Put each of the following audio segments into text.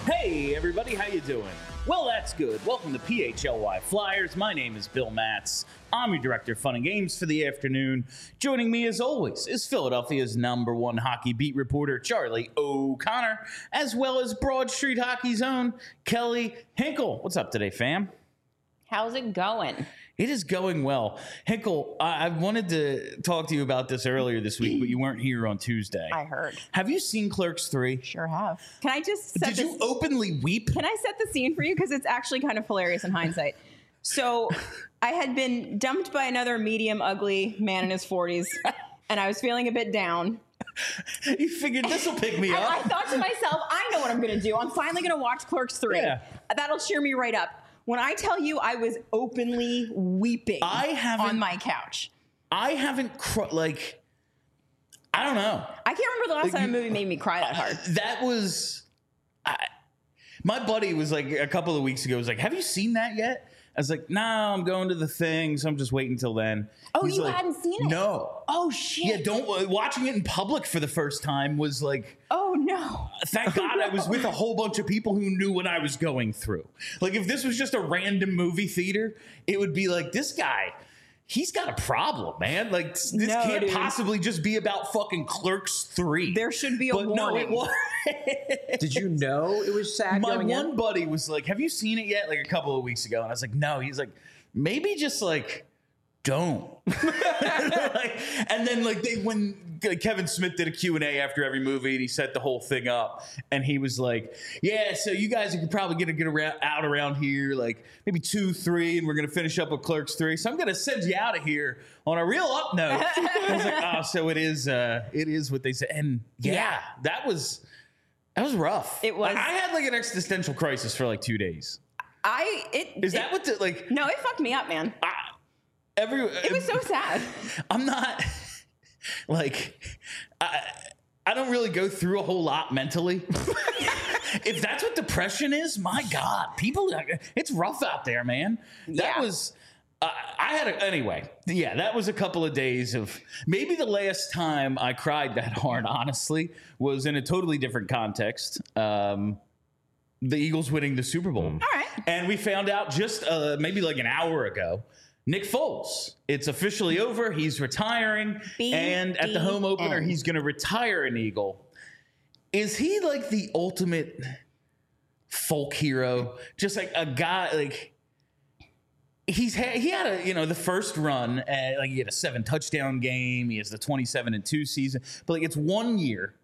Hey everybody, how you doing? Well, that's good. Welcome to PHLY Flyers. My name is Bill Matz. I'm your director of fun and games for the afternoon. Joining me as always is Philadelphia's #1 hockey beat reporter, Charlie O'Connor, as well as Broad Street Hockey's own Kelly Hinkle. What's up today, fam? How's it going? It is going well. Hinkle, I wanted to talk to you about this earlier this week, but you weren't here on Tuesday. I heard. Have you seen Clerks 3? Sure have. Can I just set Did you openly weep? Can I set the scene for you? Because it's actually kind of hilarious in hindsight. So I had been dumped by another medium ugly man in his 40s, and I was feeling a bit down. You figured this will pick me And up. I thought to myself, I know what I'm going to do. I'm finally going to watch Clerks 3. Yeah. That'll cheer me right up. When I tell you I was openly weeping on my couch. I haven't, I don't know. I can't remember the last time a movie made me cry that hard. That was, my buddy was like, a couple of weeks ago, was like, have you seen that yet? I was like, no, I'm going to the thing, so I'm just waiting until then. Oh, He's you like, hadn't seen it? No. Oh, shit. Yeah, watching it in public for the first time was like, oh, no. Thank God I was with a whole bunch of people who knew what I was going through. Like, if this was just a random movie theater, it would be like, this guy, he's got a problem, man. Like, this can't possibly just be about fucking Clerks 3. There should be a warning. No, it was. Did you know it was sad? My one buddy was like, have you seen it yet? Like a couple of weeks ago. And I was like, no. He's like, maybe just like, don't. And then like when Kevin Smith did a Q&A after every movie and he set the whole thing up and he was like, yeah, so you guys could probably get out around here like maybe 2, 3 and we're going to finish up with Clerks 3. So I'm going to send you out of here on a real up note. I was like, oh, so it is what they said. And yeah. that was rough. It was. I had like an existential crisis for like 2 days. No, it fucked me up, man. It was so sad. I'm not like I don't really go through a whole lot mentally. If that's what depression is, my God, it's rough out there, man. That was anyway. Yeah, that was a couple of days of maybe the last time I cried that hard. Honestly, was in a totally different context. The Eagles winning the Super Bowl. All right, and we found out just maybe like an hour ago. Nick Foles, it's officially over. He's retiring. And at the home opener, he's going to retire an Eagle. Is he like the ultimate folk hero? Just like a guy, like he had the first run, like he had a 7 touchdown game. He has the 27-2 season. But like it's 1 year.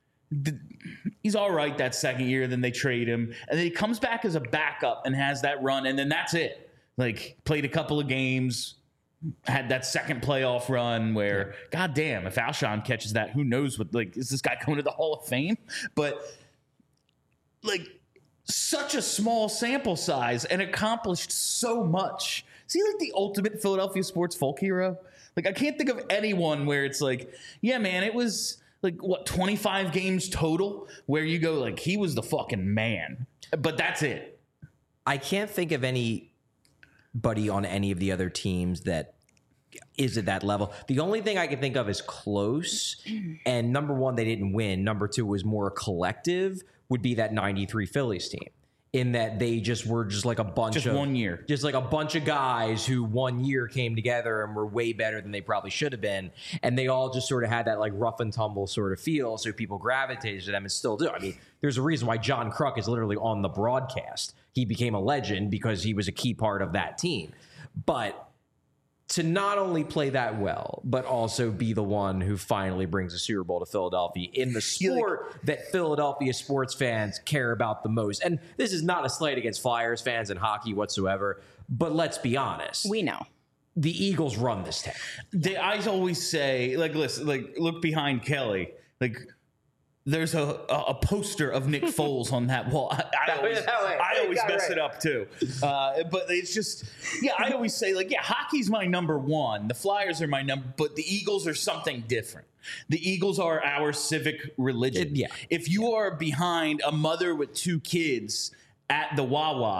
He's all right that second year. Then they trade him. And then he comes back as a backup and has that run. And then that's it. Like, played a couple of games, had that second playoff run where, goddamn, if Alshon catches that, who knows what, like, is this guy going to the Hall of Fame? But, like, such a small sample size and accomplished so much. Is he, like, the ultimate Philadelphia sports folk hero? Like, I can't think of anyone where it's like, yeah, man, it was, like, 25 games total where you go, like, he was the fucking man. But that's it. I can't think of anybody on any of the other teams that is at that level. The only thing I can think of is close. And number one, they didn't win. Number two was more collective, would be that 93 Phillies team. In that they were like a bunch of 1 year. Just like a bunch of guys who 1 year came together and were way better than they probably should have been. And they all just sort of had that like rough and tumble sort of feel. So people gravitated to them and still do. I mean, there's a reason why John Kruk is literally on the broadcast. He became a legend because he was a key part of that team. But to not only play that well, but also be the one who finally brings a Super Bowl to Philadelphia in the sport that Philadelphia sports fans care about the most. And this is not a slight against Flyers fans and hockey whatsoever, but let's be honest. We know. The Eagles run this town. I always say, like, listen, like, look behind Kelly. Like, there's a poster of Nick Foles on that wall. I always mess it up too. But it's just, I always say, like, hockey's my number one. The Flyers are my number, but the Eagles are something different. The Eagles are our civic religion. If you are behind a mother with 2 kids at the Wawa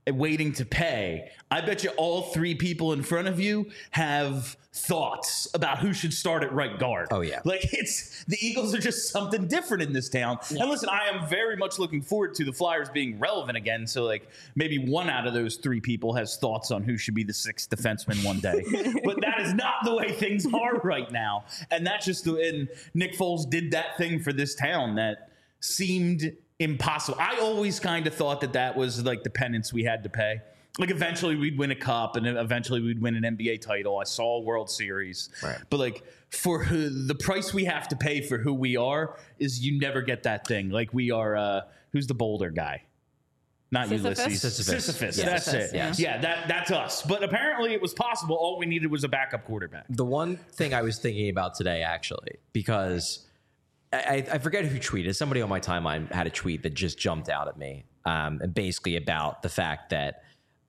waiting to pay. I bet you all three people in front of you have thoughts about who should start at right guard. Oh, yeah. Like the Eagles are just something different in this town. Yeah. And listen, I am very much looking forward to the Flyers being relevant again. So like maybe one out of those three people has thoughts on who should be the sixth defenseman one day. But that is not the way things are right now. And that's just and Nick Foles did that thing for this town that seemed impossible. I always kind of thought that was like the penance we had to pay. Like eventually we'd win a cup and eventually we'd win an NBA title. I saw a World Series. Right. But like for the price we have to pay for who we are is you never get that thing. Like we are, who's the Boulder guy? Not Ulysses. Sisyphus. Yeah. That's it. Yeah, that's us. But apparently it was possible. All we needed was a backup quarterback. The one thing I was thinking about today, actually, because I forget who tweeted. Somebody on my timeline had a tweet that just jumped out at me, and basically about the fact that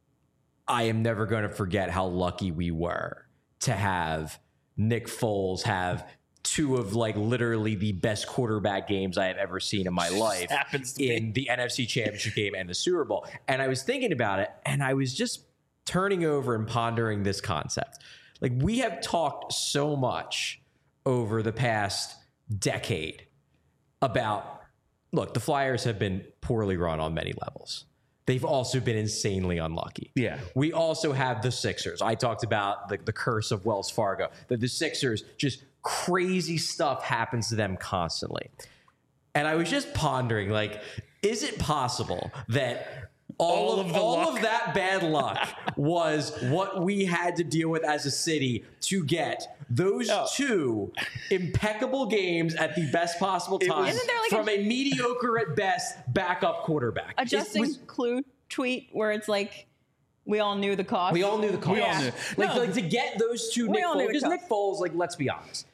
I am never going to forget how lucky we were to have Nick Foles have two of like literally the best quarterback games I have ever seen in my life in the NFC Championship game and the Super Bowl. And I was thinking about it, and I was just turning over and pondering this concept. Like we have talked so much over the past decade about, look, the Flyers have been poorly run on many levels. They've also been insanely unlucky. Yeah. We also have the Sixers. I talked about the curse of Wells Fargo, that the Sixers, just crazy stuff happens to them constantly. And I was just pondering, like, is it possible that all of that bad luck was what we had to deal with as a city to get those two impeccable games at the best possible time from a mediocre at best backup quarterback? A Justin Clue tweet where it's like, we all knew the cost. We all knew the cost. Yeah. Like to get those two Nick Foles, because Nick Foles, like, let's be honest,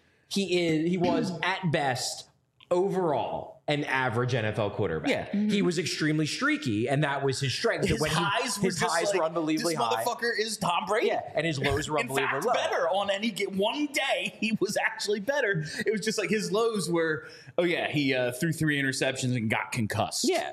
he was at best overall an average NFL quarterback. Yeah. He was extremely streaky, and that was his strength. His highs were unbelievably high. This motherfucker is Tom Brady. Yeah, and his lows were unbelievably low. Better on any one day, he was actually better. It was just like his lows were, he threw 3 interceptions and got concussed. Yeah,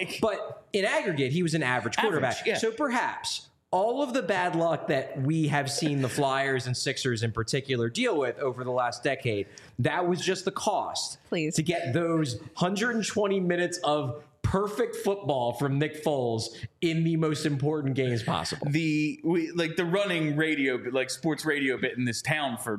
but in aggregate, he was an average quarterback. Yeah. So perhaps all of the bad luck that we have seen the Flyers and Sixers in particular deal with over the last decade, that was just the cost to get those 120 minutes of perfect football from Nick Foles in the most important games possible. The running radio, like sports radio bit in this town for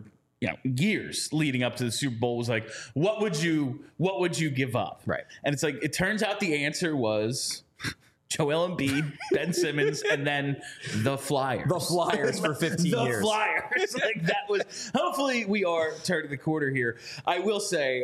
years leading up to the Super Bowl was like, what would you give up? Right. And it's like, it turns out the answer was Joel Embiid, Ben Simmons, and then the Flyers. The Flyers for 15 years. The Flyers. Like that was. Hopefully, we are turning the corner here. I will say,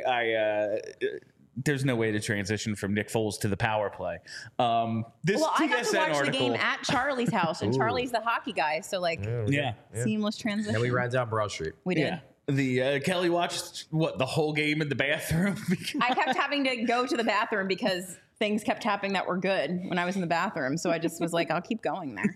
there's no way to transition from Nick Foles to the power play. This I got to watch article, the game at Charlie's house, and Charlie's the hockey guy, so seamless transition. And we ran down Broad Street. We did. Yeah. Kelly watched the whole game in the bathroom. I kept having to go to the bathroom because things kept happening that were good when I was in the bathroom. So I just was like, I'll keep going there.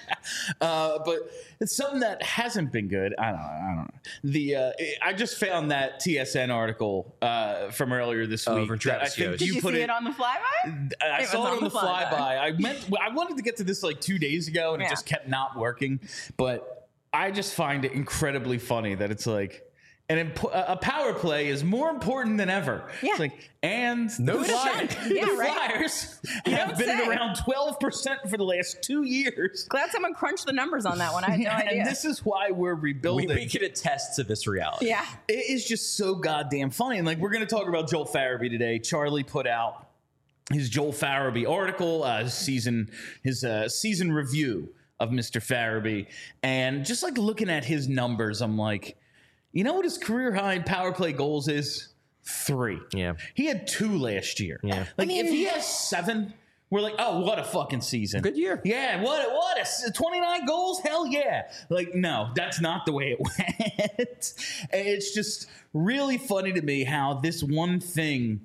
But it's something that hasn't been good. I don't know. I just found that TSN article from earlier this week. Travis Did you see it on the flyby? I saw it on the flyby. I wanted to get to this like 2 days ago, and it just kept not working. But I just find it incredibly funny that it's like, a power play is more important than ever. Yeah. It's like, and no the Flyers have been at around 12% for the last 2 years. Glad someone crunched the numbers on that one. I had no idea. And this is why we're rebuilding. We can attest to this reality. Yeah. It is just so goddamn funny. And like, we're going to talk about Joel Farabee today. Charlie put out his Joel Farabee article, his season review of Mr. Farabee. And just like looking at his numbers, I'm like, you know what his career high in power play goals is? 3. Yeah. He had 2 last year. Yeah. Like, if he has 7, we're like, oh, what a fucking season. Good year. Yeah, what a 29 goals? Hell yeah. Like, no, that's not the way it went. It's just really funny to me how this one thing,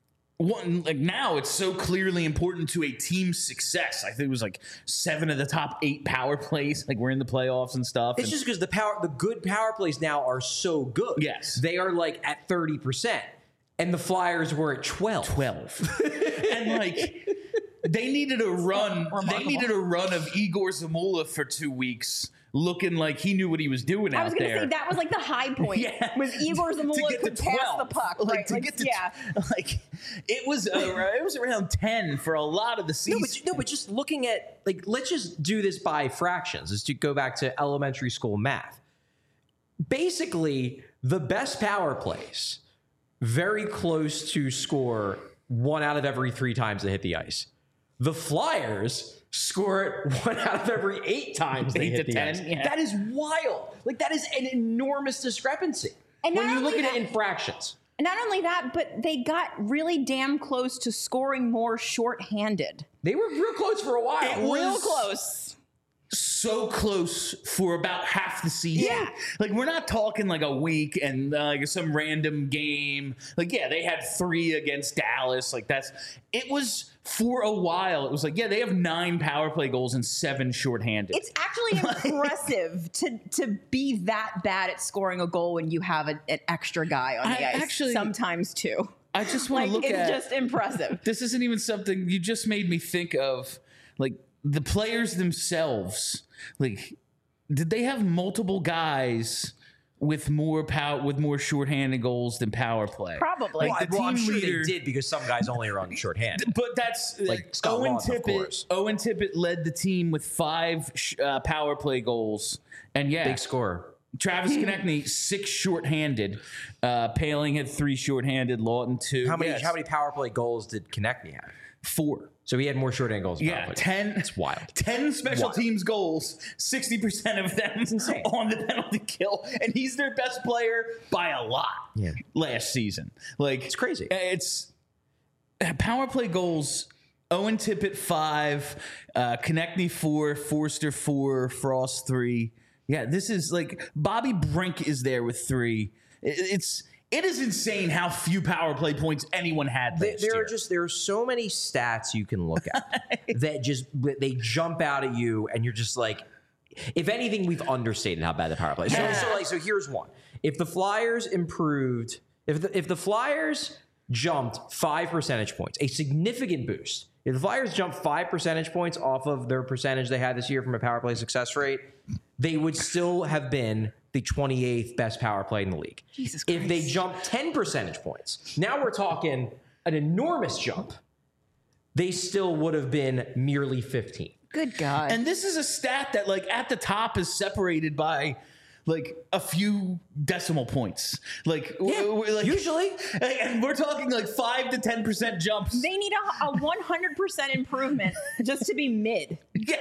now it's so clearly important to a team's success. I think it was like 7 of the top 8 power plays. Like, we're in the playoffs and stuff. It's just because the good power plays now are so good. Yes. They are like at 30%. And the Flyers were at 12. And like, They needed a run. They Remarkable. needed a run of Igor Zamula for 2 weeks, looking like he knew what he was doing I out was going to there. say that was like the high point. Yeah. Was Igor To Zamula get could to pass 12. the puck, Like, right? to Like, get to yeah. like it was around 10 for a lot of the season. No, but just looking at, like, let's just do this by fractions. Let's go back to elementary school math. Basically, the best power plays very close to score 1 out of every 3 times they hit the ice. The Flyers score it 1 out of every 8 times they 8 hit to the 10, ice. yeah. That is wild. Like, that is an enormous discrepancy And when not you look only at it that- in fractions. Not only that, but they got really damn close to scoring more shorthanded. They were real close for a while. It Real was- close. So close for about half the season. Yeah. Like, we're not talking like a week and like some random game. Like, yeah, they had 3 against Dallas. Like, it was for a while. It was like, yeah, they have 9 power play goals and 7 shorthanded. It's actually impressive to be that bad at scoring a goal when you have an extra guy on the I ice. actually- Sometimes too. I just want Like, to look it's at just impressive. this isn't even something you just made me think of, like the players themselves. Like, did they have multiple guys with more shorthanded goals than power play? Probably. Like, the Well, I'm team sure leader, they did because some guys only run shorthanded. but that's Like Scott Owen Laughton, of Tippett. course. Owen Tippett led the team with 5 power play goals, and yeah, Big scorer. Travis Konechny 6 shorthanded. Paling had 3 shorthanded. Lawton 2. How many Yes. how many power play goals did Konechny have? 4. So he had more shorthand goals. Than Yeah, power play 10. goals. It's wild. 10 special Wild. teams goals, 60% of them insane. on the penalty kill, and he's their best player by a lot. Yeah. Last season, like It's crazy. It's power play goals. Owen Tippett 5, Konechny 4, Forster 4, Frost 3. Yeah, this is like Bobby Brink is there with 3. It is insane how few power play points anyone had last year. There are so many stats you can look at that they jump out at you, and you're just like, if anything, we've understated how bad the power play is. So here's one: if the Flyers improved, if the Flyers jumped 5 percentage points, a significant boost. If the Flyers jumped 5 percentage points off of their percentage they had this year from a power play success rate, they would still have been the 28th best power play in the league. Jesus If they Christ. jumped 10 percentage points, now we're talking an enormous jump, they still would have been merely 15th. Good God. And this is a stat that, like, at the top is separated by, like, a few decimal points. Like, like usually. and we're talking like 5 to 10% jumps. they need a 100% improvement just to be mid.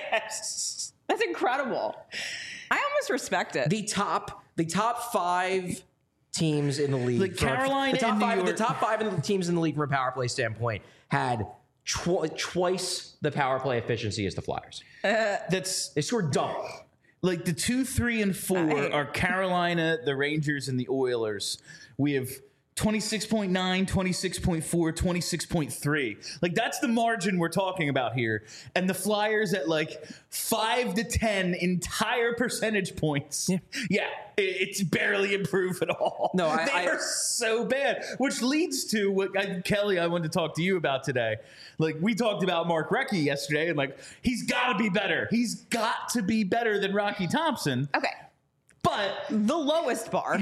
Yes. That's incredible. I almost respect it. The top 5 teams in the league, Like Carolina the top and New 5, York. the top 5 of the teams in the league from a power play standpoint had twice the power play efficiency as the Flyers. That's They scored double. like the 2, 3, and 4 are Carolina, the Rangers, and the Oilers. We have 26.9, 26.4, 26.3. Like, that's the margin we're talking about here. And the Flyers at like 5 to 10 entire percentage points. Yeah, it's barely improved at all. No, they are so bad, which leads to what Kelly, I wanted to talk to you about today. Like, we talked about Mark Recchi yesterday, and like, he's got to be better. He's got to be better than Rocky Thompson. Okay. But The lowest bar.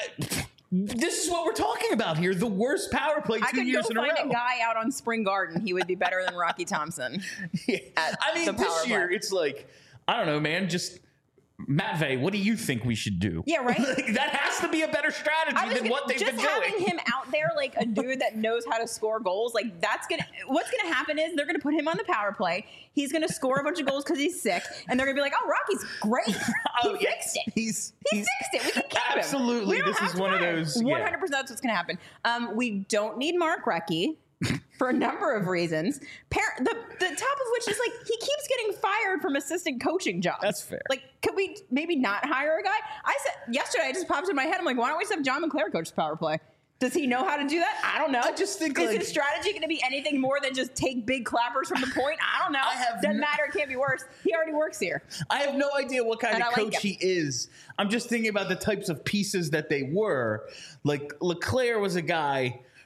this is what we're talking about here. The worst power play I 2 could years go in a row. find a guy out on Spring Garden. He would be better than Rocky Thompson. I mean, the power this year, play. it's like, I don't know, man, just Matvey, what do you think we should do? Yeah, right? Like, that has to be a better strategy than what they've just been having doing. him out there like a dude that knows how to score goals, like what's gonna happen is they're gonna put him on the power play. He's gonna score a bunch of goals because he's sick, and they're gonna be like, "Oh, Rocky's great. He fixed it. He He fixed it. We can keep him." Absolutely. We don't This have is to one of fire him. those, yeah. 100%. That's what's gonna happen. We don't need Mark Recchi. For a number of reasons, the top of which is like he keeps getting fired from assistant coaching jobs. That's fair. Like, could we maybe not hire a guy? I said yesterday, it just popped in my head. I'm like, why don't we just have John McClare coach the power play? Does he know how to do that? I don't know. I just think, is like- his strategy going to be anything more than just take big clappers from the point? I don't know. Doesn't matter. It can't be worse. He already works here. I have no idea what kind And of I like coach him. he is. I'm just thinking about the types of pieces that they were. Like, LeClaire was a guy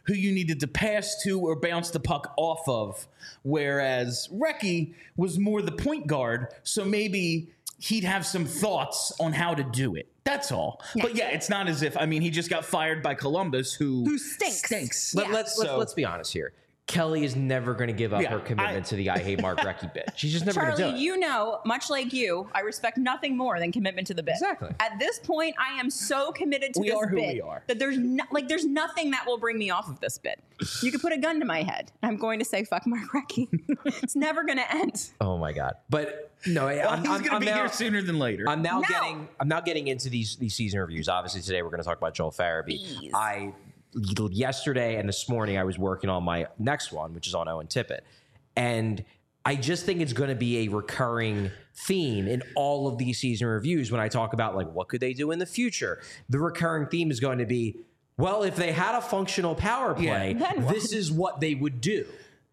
who you needed to pass to or bounce the puck off of, whereas Recchi was more the point guard, so maybe he'd have some thoughts on how to do it. That's all. Yeah. But yeah, it's not as if, I mean, he just got fired by Columbus, who stinks. Yeah. Let's be honest here. Kelly is never going to give up her commitment to the I hate Mark Recchi bit. She's just never going to do it. Charlie, you know, much like you, I respect nothing more than commitment to the bit. Exactly. At this point, I am so committed to this bit that there's nothing that will bring me off of this bit. You could put a gun to my head. I'm going to say fuck Mark Recchi. It's never going to end. Oh my God. But no, he's going to be here sooner than later. I'm now getting into these season reviews. Obviously, today we're going to talk about Joel Farabee. Yesterday and this morning, I was working on my next one, which is on Owen Tippett. And I just think it's going to be a recurring theme in all of these season reviews when I talk about, like, what could they do in the future? The recurring theme is going to be, well, if they had a functional power play, this is what they would do.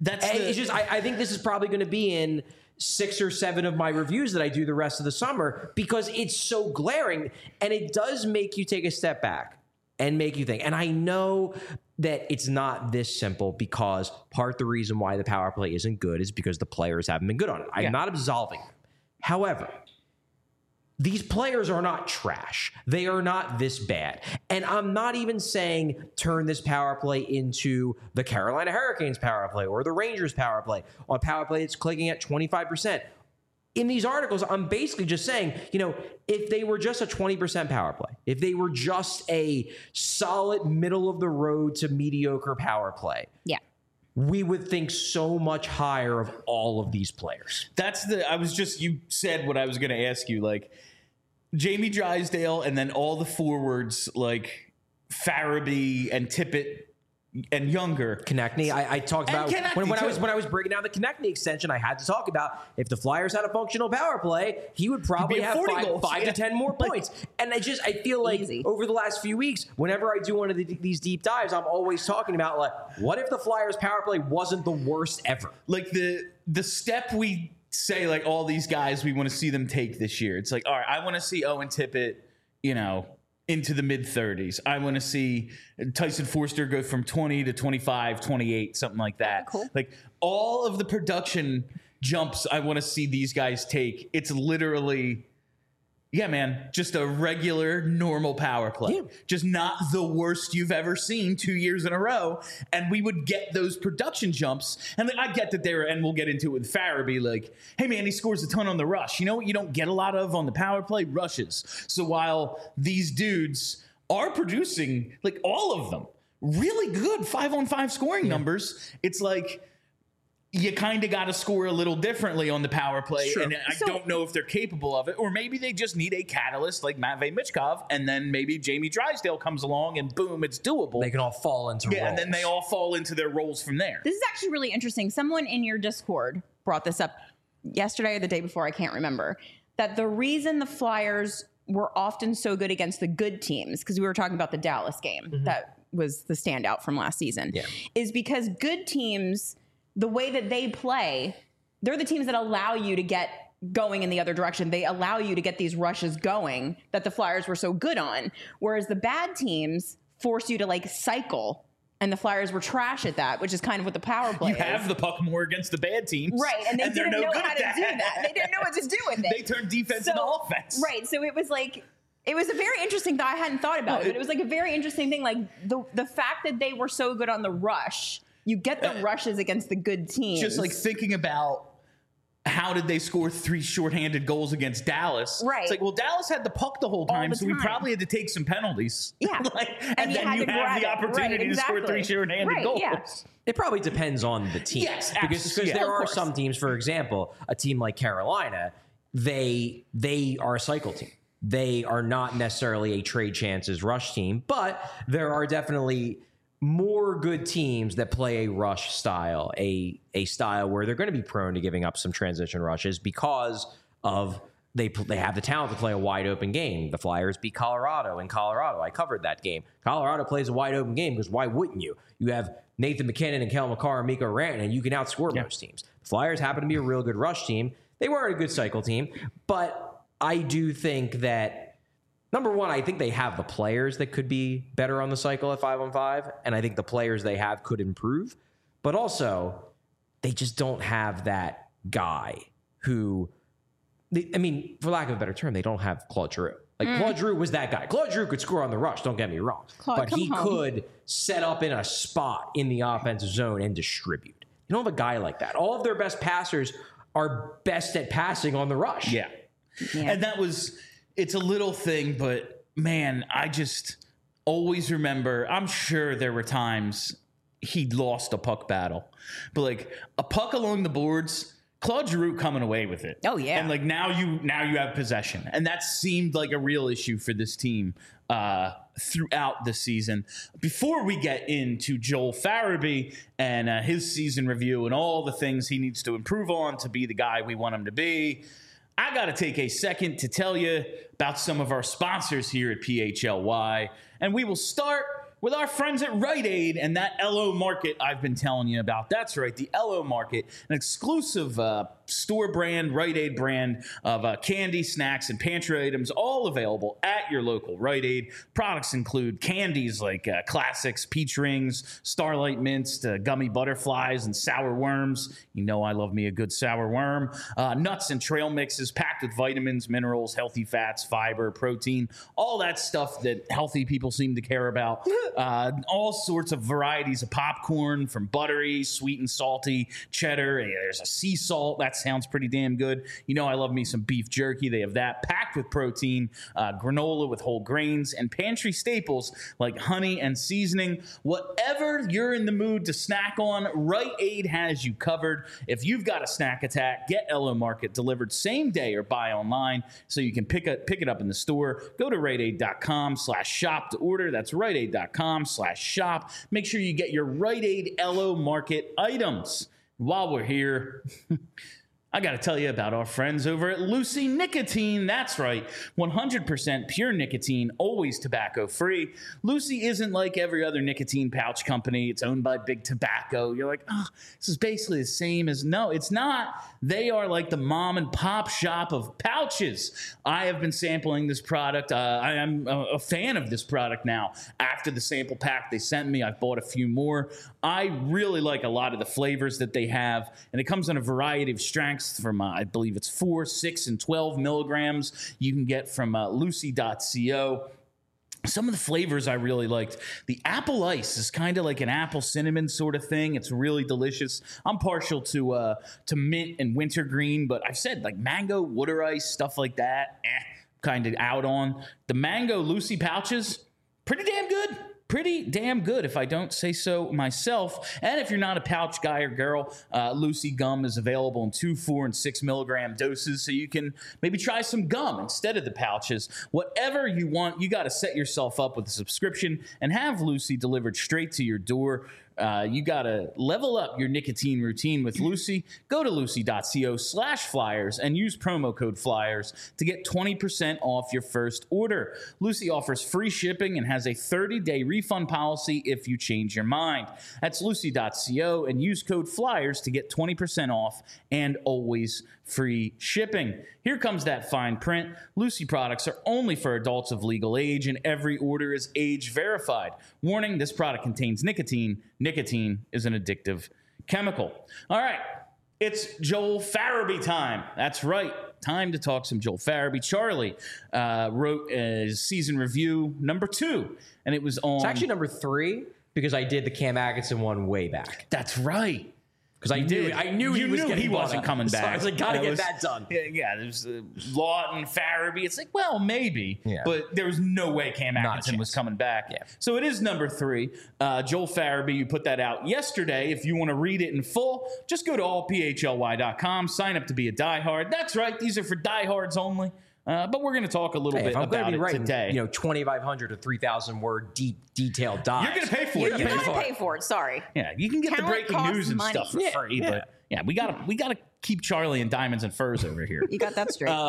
I think this is probably going to be in 6 or 7 of my reviews that I do the rest of the summer because it's so glaring, and it does make you take a step back and make you think. And I know that it's not this simple because part of the reason why the power play isn't good is because the players haven't been good on it. I'm not absolving them. However, these players are not trash. They are not this bad. And I'm not even saying turn this power play into the Carolina Hurricanes power play or the Rangers power play, or a power play that's clicking at 25%. In these articles, I'm basically just saying, you know, if they were just a 20% power play, if they were just a solid middle of the road to mediocre power play, we would think so much higher of all of these players. You said what I was going to ask you, like Jamie Drysdale and then all the forwards like Farabee and Tippett and Younger. Konechny, I talked about when I was breaking down the Konechny extension, I had to talk about if the Flyers had a functional power play, he would probably have 5 to 10 more points. And I feel like over the last few weeks, whenever I do one of these deep dives, I'm always talking about, like, what if the Flyers power play wasn't the worst ever? Like the step we say, like, all these guys, we want to see them take this year. It's like, all right, I want to see Owen Tippett, you know, into the mid-30s. I want to see Tyson Forster go from 20 to 25, 28, something like that. Cool. Like all of the production jumps I want to see these guys take. It's literally, just a regular, normal power play. Yeah. Just not the worst you've ever seen 2 years in a row. And we would get those production jumps. And I get that and we'll get into it with Farabee, like, hey, man, he scores a ton on the rush. You know what you don't get a lot of on the power play? Rushes. So while these dudes are producing, like, all of them, really good 5-on-5 scoring numbers, it's like, you kind of got to score a little differently on the power play. Sure. And I don't know if they're capable of it. Or maybe they just need a catalyst like Matvei Michkov, and then maybe Jamie Drysdale comes along and boom, it's doable. They can all fall into roles. And then they all fall into their roles from there. This is actually really interesting. Someone in your Discord brought this up yesterday or the day before, I can't remember, that the reason the Flyers were often so good against the good teams, because we were talking about the Dallas game, that was the standout from last season, is because good teams, the way that they play, they're the teams that allow you to get going in the other direction. They allow you to get these rushes going that the Flyers were so good on. Whereas the bad teams force you to, like, cycle, and the Flyers were trash at that, which is kind of what the power play is. You have the puck more against the bad teams. Right, and they didn't know how to do that. They didn't know what to do with it. They turned defense into offense. Right, so it was like, it was a very interesting thought. I hadn't thought about it, but it was like a very interesting thing. Like the fact that they were so good on the rush, you get the rushes against the good teams. Just like thinking about how did they score 3 shorthanded goals against Dallas? Right. It's like, well, Dallas had the puck the whole time, so we probably had to take some penalties. Yeah. and then you have the opportunity to score 3 shorthanded goals. Yeah. It probably depends on the team. Yes, because there are some teams, for example, a team like Carolina, they are a cycle team. They are not necessarily a trade chances rush team, but there are definitely more good teams that play a rush style, a style where they're going to be prone to giving up some transition rushes because of they have the talent to play a wide open game. The Flyers beat Colorado in Colorado. I covered that game. Colorado plays a wide open game because why wouldn't you? You have Nathan McKinnon and Kel McCarr and Mikko Rantanen, and you can outscore most teams. The Flyers happen to be a real good rush team. They weren't a good cycle team, but I do think that Number one, I think they have the players that could be better on the cycle at 5-on-5, and I think the players they have could improve. But also, they just don't have that guy who, for lack of a better term, they don't have Claude Giroux. Claude Giroux was that guy. Claude Giroux could score on the rush, don't get me wrong. But he could set up in a spot in the offensive zone and distribute. You don't have a guy like that. All of their best passers are best at passing on the rush. Yeah. And it's a little thing, but man, I just always remember, I'm sure there were times he lost a puck battle, but like a puck along the boards, Claude Giroux coming away with it. Oh yeah. And like now you have possession. And that seemed like a real issue for this team throughout the season. Before we get into Joel Farabee and his season review and all the things he needs to improve on to be the guy we want him to be, I got to take a second to tell you about some of our sponsors here at PHLY. And we will start with our friends at Rite Aid and that LO Market I've been telling you about. That's right, the LO Market, an exclusive store brand, Rite Aid brand of candy, snacks, and pantry items, all available at your local Rite Aid. Products include candies like Classics, Peach Rings, Starlight Mints, Gummy Butterflies, and Sour Worms. You know I love me a good sour worm. Nuts and trail mixes packed with vitamins, minerals, healthy fats, fiber, protein, all that stuff that healthy people seem to care about. All sorts of varieties of popcorn, from buttery, sweet and salty, cheddar. There's a sea salt. That sounds pretty damn good. You know I love me some beef jerky. They have that packed with protein, granola with whole grains, and pantry staples like honey and seasoning. Whatever you're in the mood to snack on, Rite Aid has you covered. If you've got a snack attack, get LO Market delivered same day or buy online so you can pick it up in the store. Go to riteaid.com/shop to order. That's riteaid.com/shop. Make sure you get your Rite Aid LO Market items. While we're here, I got to tell you about our friends over at Lucy Nicotine. That's right, 100% pure nicotine, always tobacco-free. Lucy isn't like every other nicotine pouch company. It's owned by Big Tobacco. You're like, oh, this is basically the same as... No, it's not. They are like the mom and pop shop of pouches. I have been sampling this product. I am a fan of this product now. After the sample pack they sent me, I've bought a few more. I really like a lot of the flavors that they have, and it comes in a variety of strengths from, I believe it's 4, 6, and 12 milligrams. You can get from lucy.co. Some of the flavors I really liked. The apple ice is kind of like an apple cinnamon sort of thing. It's really delicious. I'm partial to mint and wintergreen, but I've said like mango, water ice, stuff like that, kind of out on. The mango Lucy pouches, pretty damn good. Pretty damn good, if I don't say so myself. And if you're not a pouch guy or girl, Lucy gum is available in 2, 4, and 6 milligram doses, so you can maybe try some gum instead of the pouches. Whatever you want, you got to set yourself up with a subscription and have Lucy delivered straight to your door. You got to level up your nicotine routine with Lucy. Go to lucy.co/flyers and use promo code FLYERS to get 20% off your first order. Lucy offers free shipping and has a 30-day refund policy if you change your mind. That's lucy.co and use code FLYERS to get 20% off and always free shipping. Here comes that fine print. Lucy products are only for adults of legal age, and every order is age verified. Warning, this product contains nicotine. Nicotine is an addictive chemical. All right, it's Joel Farabee time. That's right. Time to talk some Joel Farabee. Charlie wrote a season review number 2, and it was on... It's actually number 3 because I did the Cam Atkinson one way back. That's right. Because I knew he wasn't coming back. So I was like, gotta get that done. Yeah, there's Lawton, Farabee. It's like, well, maybe. Yeah. But there was no way Cam Atkinson was coming back. Yeah. So it is number 3. Joel Farabee, you put that out yesterday. If you want to read it in full, just go to allphly.com, sign up to be a diehard. That's right. These are for diehards only. But we're going to talk a little bit about it today. 2,500 to 3,000 word deep detailed dives. You're going to pay for it. You're going to pay for it. Sorry. Yeah, you can get the breaking news and stuff for free. Yeah. But yeah, we gotta keep Charlie in diamonds and furs over here. You got that straight.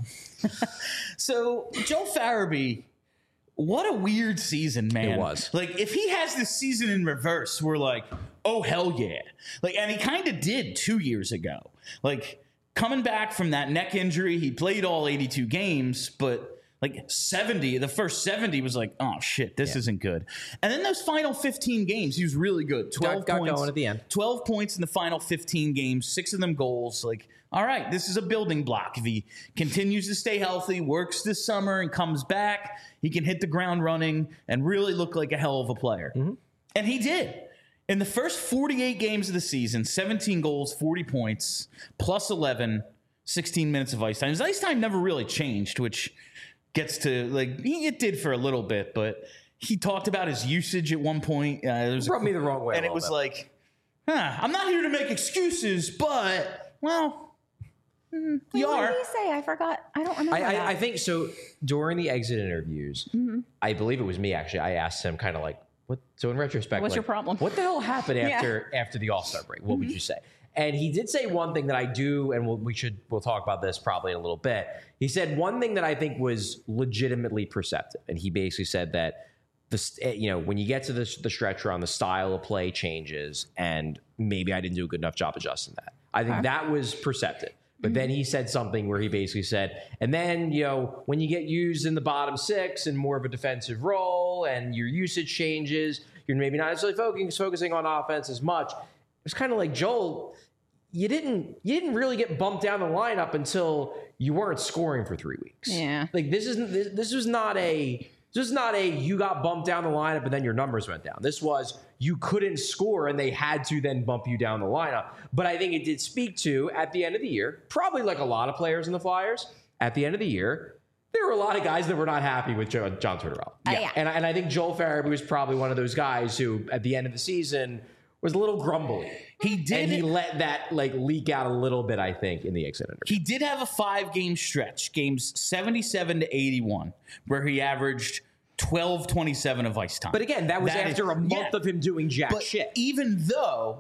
So Joel Farabee, what a weird season, man. It was. Like, if he has this season in reverse, we're like, oh hell yeah. Like, and he kind of did 2 years ago. Like, coming back from that neck injury, he played all 82 games, but like 70. The first 70 was like, oh shit, this isn't good. And then those final 15 games, he was really good. 12 got points going at the end. 12 points in the final 15 games, 6 of them goals. Like, all right, this is a building block. If he continues to stay healthy, works this summer, and comes back, he can hit the ground running and really look like a hell of a player. And he did. In the first 48 games of the season, 17 goals, 40 points, plus 11, 16 minutes of ice time. His ice time never really changed, which gets to, like, it did for a little bit, but he talked about his usage at one point. It rubbed me the wrong way. And it was like, I'm not here to make excuses, but, well, you What are. did he say? I forgot. I don't remember that. I think so. During the exit interviews, I believe it was me actually. I asked him kind of like, "What?" So in retrospect, What's like, your problem? What the hell happened after the All-Star break? What would you say? And he did say one thing that I do, and we'll talk about this probably in a little bit. He said one thing that I think was legitimately perceptive, and he basically said that when you get to the stretch run, the style of play changes, and maybe I didn't do a good enough job adjusting that. I think that was perceptive. But then he said something where he basically said, and then, when you get used in the bottom six in more of a defensive role and your usage changes, you're maybe not necessarily focusing on offense as much. It's kind of like, Joel, you didn't really get bumped down the lineup until you weren't scoring for 3 weeks. Yeah. Like this was not a you got bumped down the lineup and then your numbers went down. This was you couldn't score and they had to then bump you down the lineup. But I think it did speak to, at the end of the year, probably like a lot of players in the Flyers, at the end of the year, there were a lot of guys that were not happy with John Tortorella. Yeah. And I think Joel Farabee was probably one of those guys who, at the end of the season, was a little grumbly. He did. And he let that leak out a little bit, I think, in the exit interview. He did have a 5-game stretch, games 77 to 81, where he averaged 12-27 of ice time. But again, that was after a month of him doing jack shit. Even though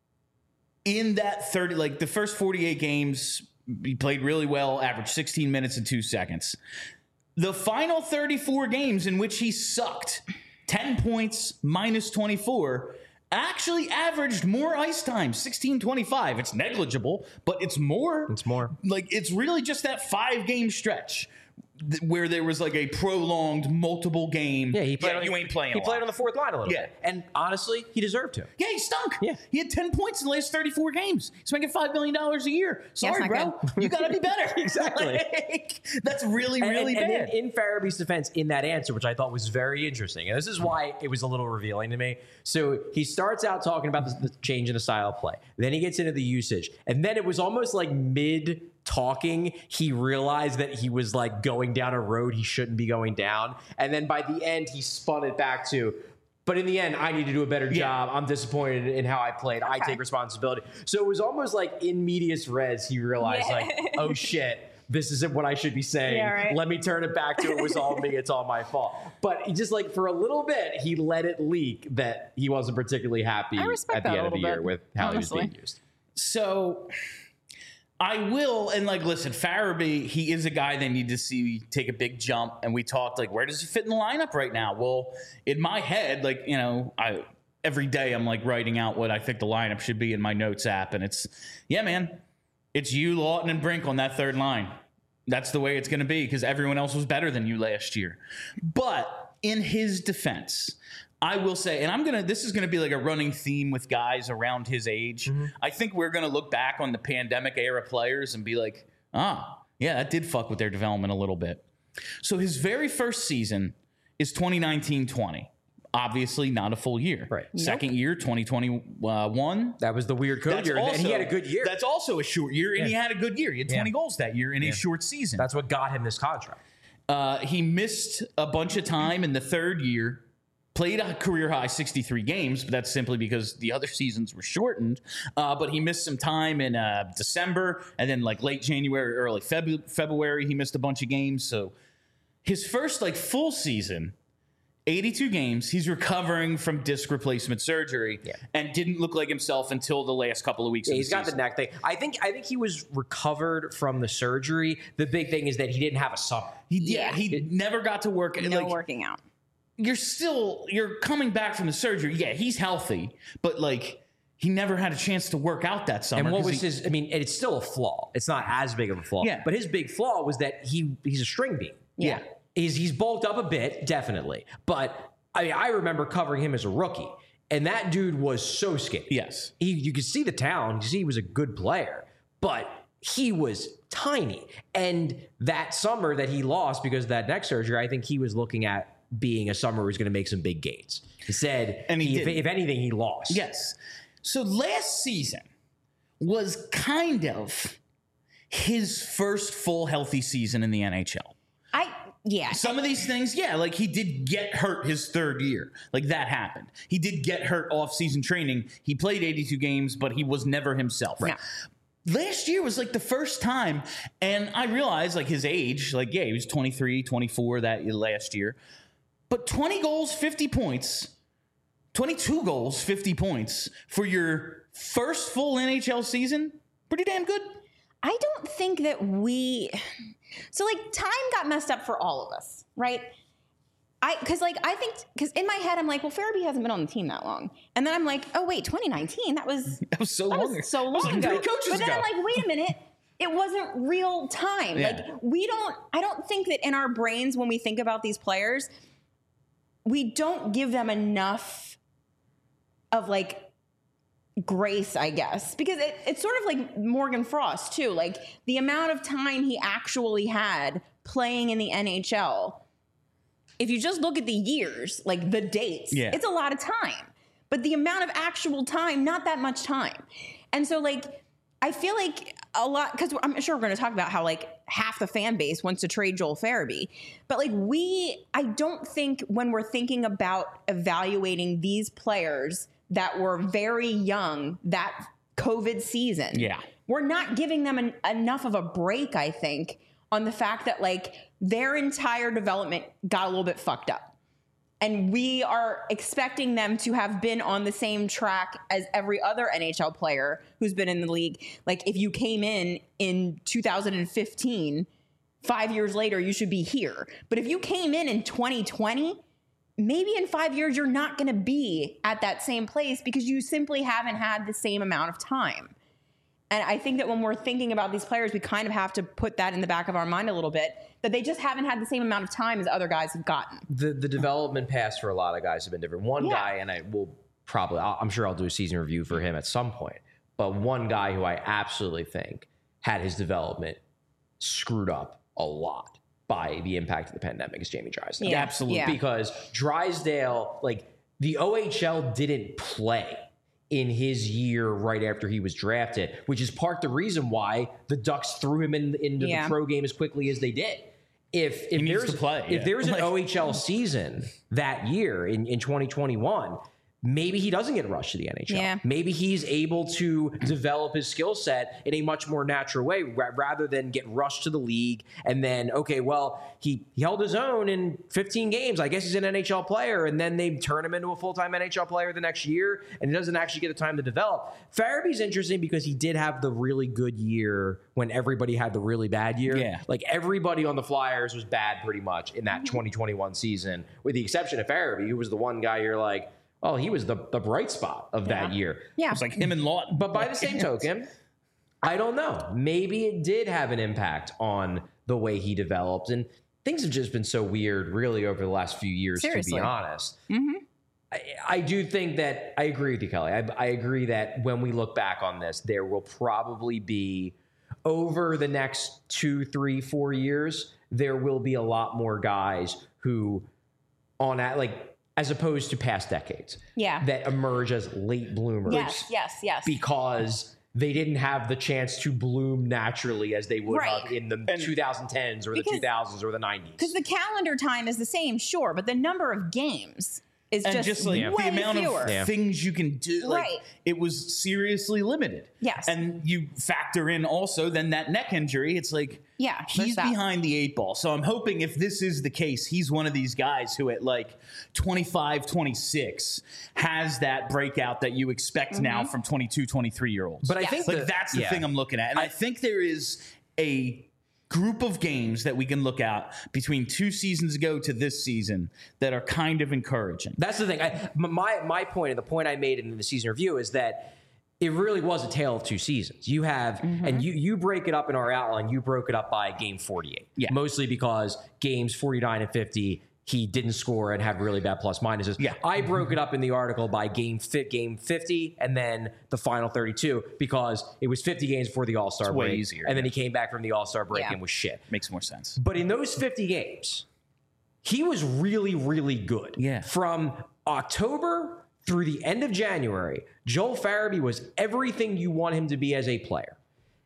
in that 30, like the first 48 games, he played really well, averaged 16 minutes and 2 seconds. The final 34 games in which he sucked, 10 points, minus 24, actually averaged more ice time, 16-25. It's negligible, but it's more. It's more. Like, it's really just that 5-game stretch where there was like a prolonged multiple game. Yeah, he played. You ain't playing. He played on the fourth line a little bit. And honestly, he deserved to. Yeah, he stunk. Yeah. He had 10 points in the last 34 games. He's making $5 million a year. Sorry, bro. You got to be better. Exactly. That's really bad. And in Farabee's defense, in that answer, which I thought was very interesting, and this is why it was a little revealing to me. So he starts out talking about the change in the style of play. Then he gets into the usage. And then it was almost like mid-talking, he realized that he was like going down a road he shouldn't be going down. And then by the end, he spun it back to, but in the end, I need to do a better job. I'm disappointed in how I played. I take responsibility. So it was almost like in medias res, he realized like, oh shit, this isn't what I should be saying. Yeah, right. Let me turn it back to it was all me. It's all my fault. But he just like for a little bit, he let it leak that he wasn't particularly happy at the end of the year with how he was being used. So I will, and like, listen, Farabee, he is a guy they need to see take a big jump. And we talked like, where does he fit in the lineup right now? Well, in my head, like, every day I'm like writing out what I think the lineup should be in my notes app. And it's, it's you, Lawton, and Brink on that third line. That's the way it's going to be because everyone else was better than you last year. But in his defense, I will say, and this is going to be like a running theme with guys around his age. Mm-hmm. I think we're going to look back on the pandemic era players and be like, that did fuck with their development a little bit. So his very first season is 2019-20. Obviously not a full year. Right. Second year, 2021. That was the weird code year. And he had a good year. That's also a short year, and he had a good year. He had 20 goals that year in a short season. That's what got him this contract. He missed a bunch of time in the third year, played a career-high 63 games, but that's simply because the other seasons were shortened. But he missed some time in December, and then like late January, early February, he missed a bunch of games. So his first like full season, 82 games, he's recovering from disc replacement surgery and didn't look like himself until the last couple of weeks of the season. He's got the neck thing. I think he was recovered from the surgery. The big thing is that he didn't have a summer. He never got to work. No working out. You're coming back from the surgery. Yeah, he's healthy, but like he never had a chance to work out that summer. And what was his? I mean, it's still a flaw. It's not as big of a flaw. Yeah. But his big flaw was that he's a string bean. Yeah. he's bulked up a bit, definitely. But I mean, I remember covering him as a rookie, and that dude was so skinny. Yes. You could see the talent. You could see he was a good player, but he was tiny. And that summer that he lost because of that neck surgery, I think he was looking at being a summer where he's going to make some big gains. He said, and if anything, he lost. Yes. So last season was kind of his first full healthy season in the NHL. Some of these things, like he did get hurt his third year. Like that happened. He did get hurt off-season training. He played 82 games, but he was never himself. Right. Last year was like the first time, and I realized like his age, like, he was 23, 24 that last year. But 20 goals, 50 points, 22 goals, 50 points for your first full NHL season, pretty damn good. I don't think that so like time got messed up for all of us, right? Because in my head, I'm like, well, Farabee hasn't been on the team that long. And then I'm like, oh, wait, 2019, that was so long ago. So long ago. But then I'm like, wait a minute. It wasn't real time. Yeah. Like I don't think that in our brains, when we think about these players, we don't give them enough of like grace, I guess, because it's sort of like Morgan Frost too. Like the amount of time he actually had playing in the NHL, if you just look at the years, like the dates, it's a lot of time. But the amount of actual time, not that much time. And so like, I feel like a lot, because I'm sure we're going to talk about how like half the fan base wants to trade Joel Farabee. But like I don't think when we're thinking about evaluating these players that were very young that COVID season, we're not giving them enough of a break, I think, on the fact that like their entire development got a little bit fucked up. And we are expecting them to have been on the same track as every other NHL player who's been in the league. Like if you came in 2015, 5 years later, you should be here. But if you came in 2020, maybe in 5 years, you're not going to be at that same place because you simply haven't had the same amount of time. And I think that when we're thinking about these players, we kind of have to put that in the back of our mind a little bit, that they just haven't had the same amount of time as other guys have gotten. The development paths for a lot of guys have been different. One guy, and I'm sure I'll do a season review for him at some point, but one guy who I absolutely think had his development screwed up a lot by the impact of the pandemic is Jamie Drysdale. Yeah, absolutely. Yeah. Because Drysdale, like the OHL didn't play in his year right after he was drafted, which is part the reason why the Ducks threw him into the pro game as quickly as they did. If there's an OHL season that year in 2021, maybe he doesn't get rushed to the NHL. Yeah. Maybe he's able to develop his skill set in a much more natural way rather than get rushed to the league. And then, okay, well, he held his own in 15 games. I guess he's an NHL player. And then they turn him into a full-time NHL player the next year, and he doesn't actually get the time to develop. Farabee's interesting because he did have the really good year when everybody had the really bad year. Yeah. Like everybody on the Flyers was bad pretty much in that 2021 season, with the exception of Farabee, who was the one guy you're like, oh, he was the bright spot of that year. Yeah. It was like him and Lawton. But by the same token, I don't know. Maybe it did have an impact on the way he developed. And things have just been so weird, really, over the last few years, Seriously. to be honest. Mm-hmm. I do think that I agree with you, Kelly. I agree that when we look back on this, there will probably be, over the next 2, 3, 4 years, there will be a lot more guys who, as opposed to past decades, that emerge as late bloomers. Yes. Because they didn't have the chance to bloom naturally as they would have in the 2010s or the 2000s or the 90s. Because the calendar time is the same, sure, but the number of games is just like way the amount fewer. of things you can do. Like, Right. it was seriously limited. And you factor in also then that neck injury. It's like, he's behind the 8 ball. So I'm hoping if this is the case, he's one of these guys who at like 25, 26 has that breakout that you expect now from 22, 23-year-olds. But I think that's the thing I'm looking at. And I think there is a group of games that we can look at between 2 seasons ago to this season that are kind of encouraging. That's the thing. My point, and the point I made in the season review, is that it really was a tale of two seasons. You have, and you break it up in our outline, you broke it up by game 48. Yeah. Mostly because games 49 and 50, he didn't score and had really bad plus minuses. Yeah. I broke it up in the article by game 50 and then the final 32 because it was 50 games before the All-Star break. Way easier. And then he came back from the All-Star break and was shit. Makes more sense. But in those 50 games, he was really, really good. Yeah. From October through the end of January, Joel Farabee was everything you want him to be as a player.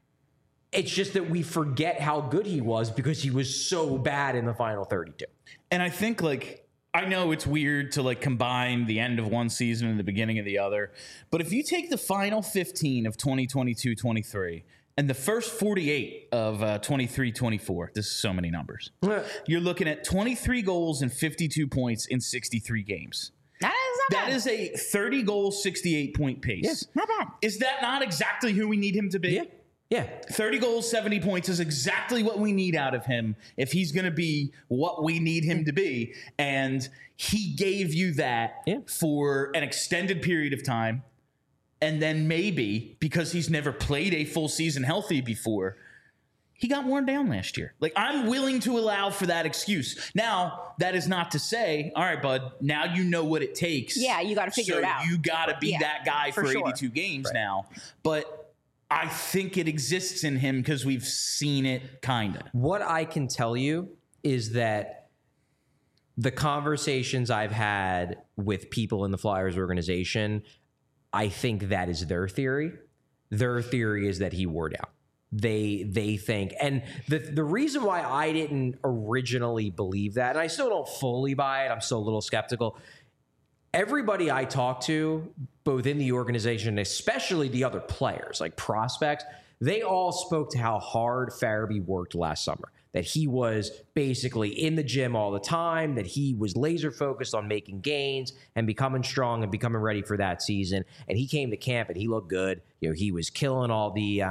It's just that we forget how good he was because he was so bad in the final 32. And I think, like, I know it's weird to, like, combine the end of one season and the beginning of the other, but if you take the final 15 of 2022-23 and the first 48 of 23-24, this is so many numbers, you're looking at 23 goals and 52 points in 63 games. That is not bad. That is a 30-goal, 68-point pace. Yes. Not bad. Is that not exactly who we need him to be? Yeah. Yeah. 30 goals, 70 points is exactly what we need out of him if he's going to be what we need him to be. And he gave you that for an extended period of time. And then maybe, because he's never played a full season healthy before, he got worn down last year. Like, I'm willing to allow for that excuse. Now, that is not to say, all right, bud, now you know what it takes. Yeah, you got to figure it out. You got to be that guy for 82 games now. But I think it exists in him because we've seen it kind of. What I can tell you is that the conversations I've had with people in the Flyers organization, I think that is their theory. Their theory is that he wore down. They think, and the reason why I didn't originally believe that, and I still don't fully buy it, I'm still a little skeptical. Everybody I talk to, both in the organization, especially the other players, like prospects, they all spoke to how hard Farabee worked last summer. That he was basically in the gym all the time, that he was laser focused on making gains and becoming strong and becoming ready for that season. And he came to camp and he looked good. You know, he was killing all the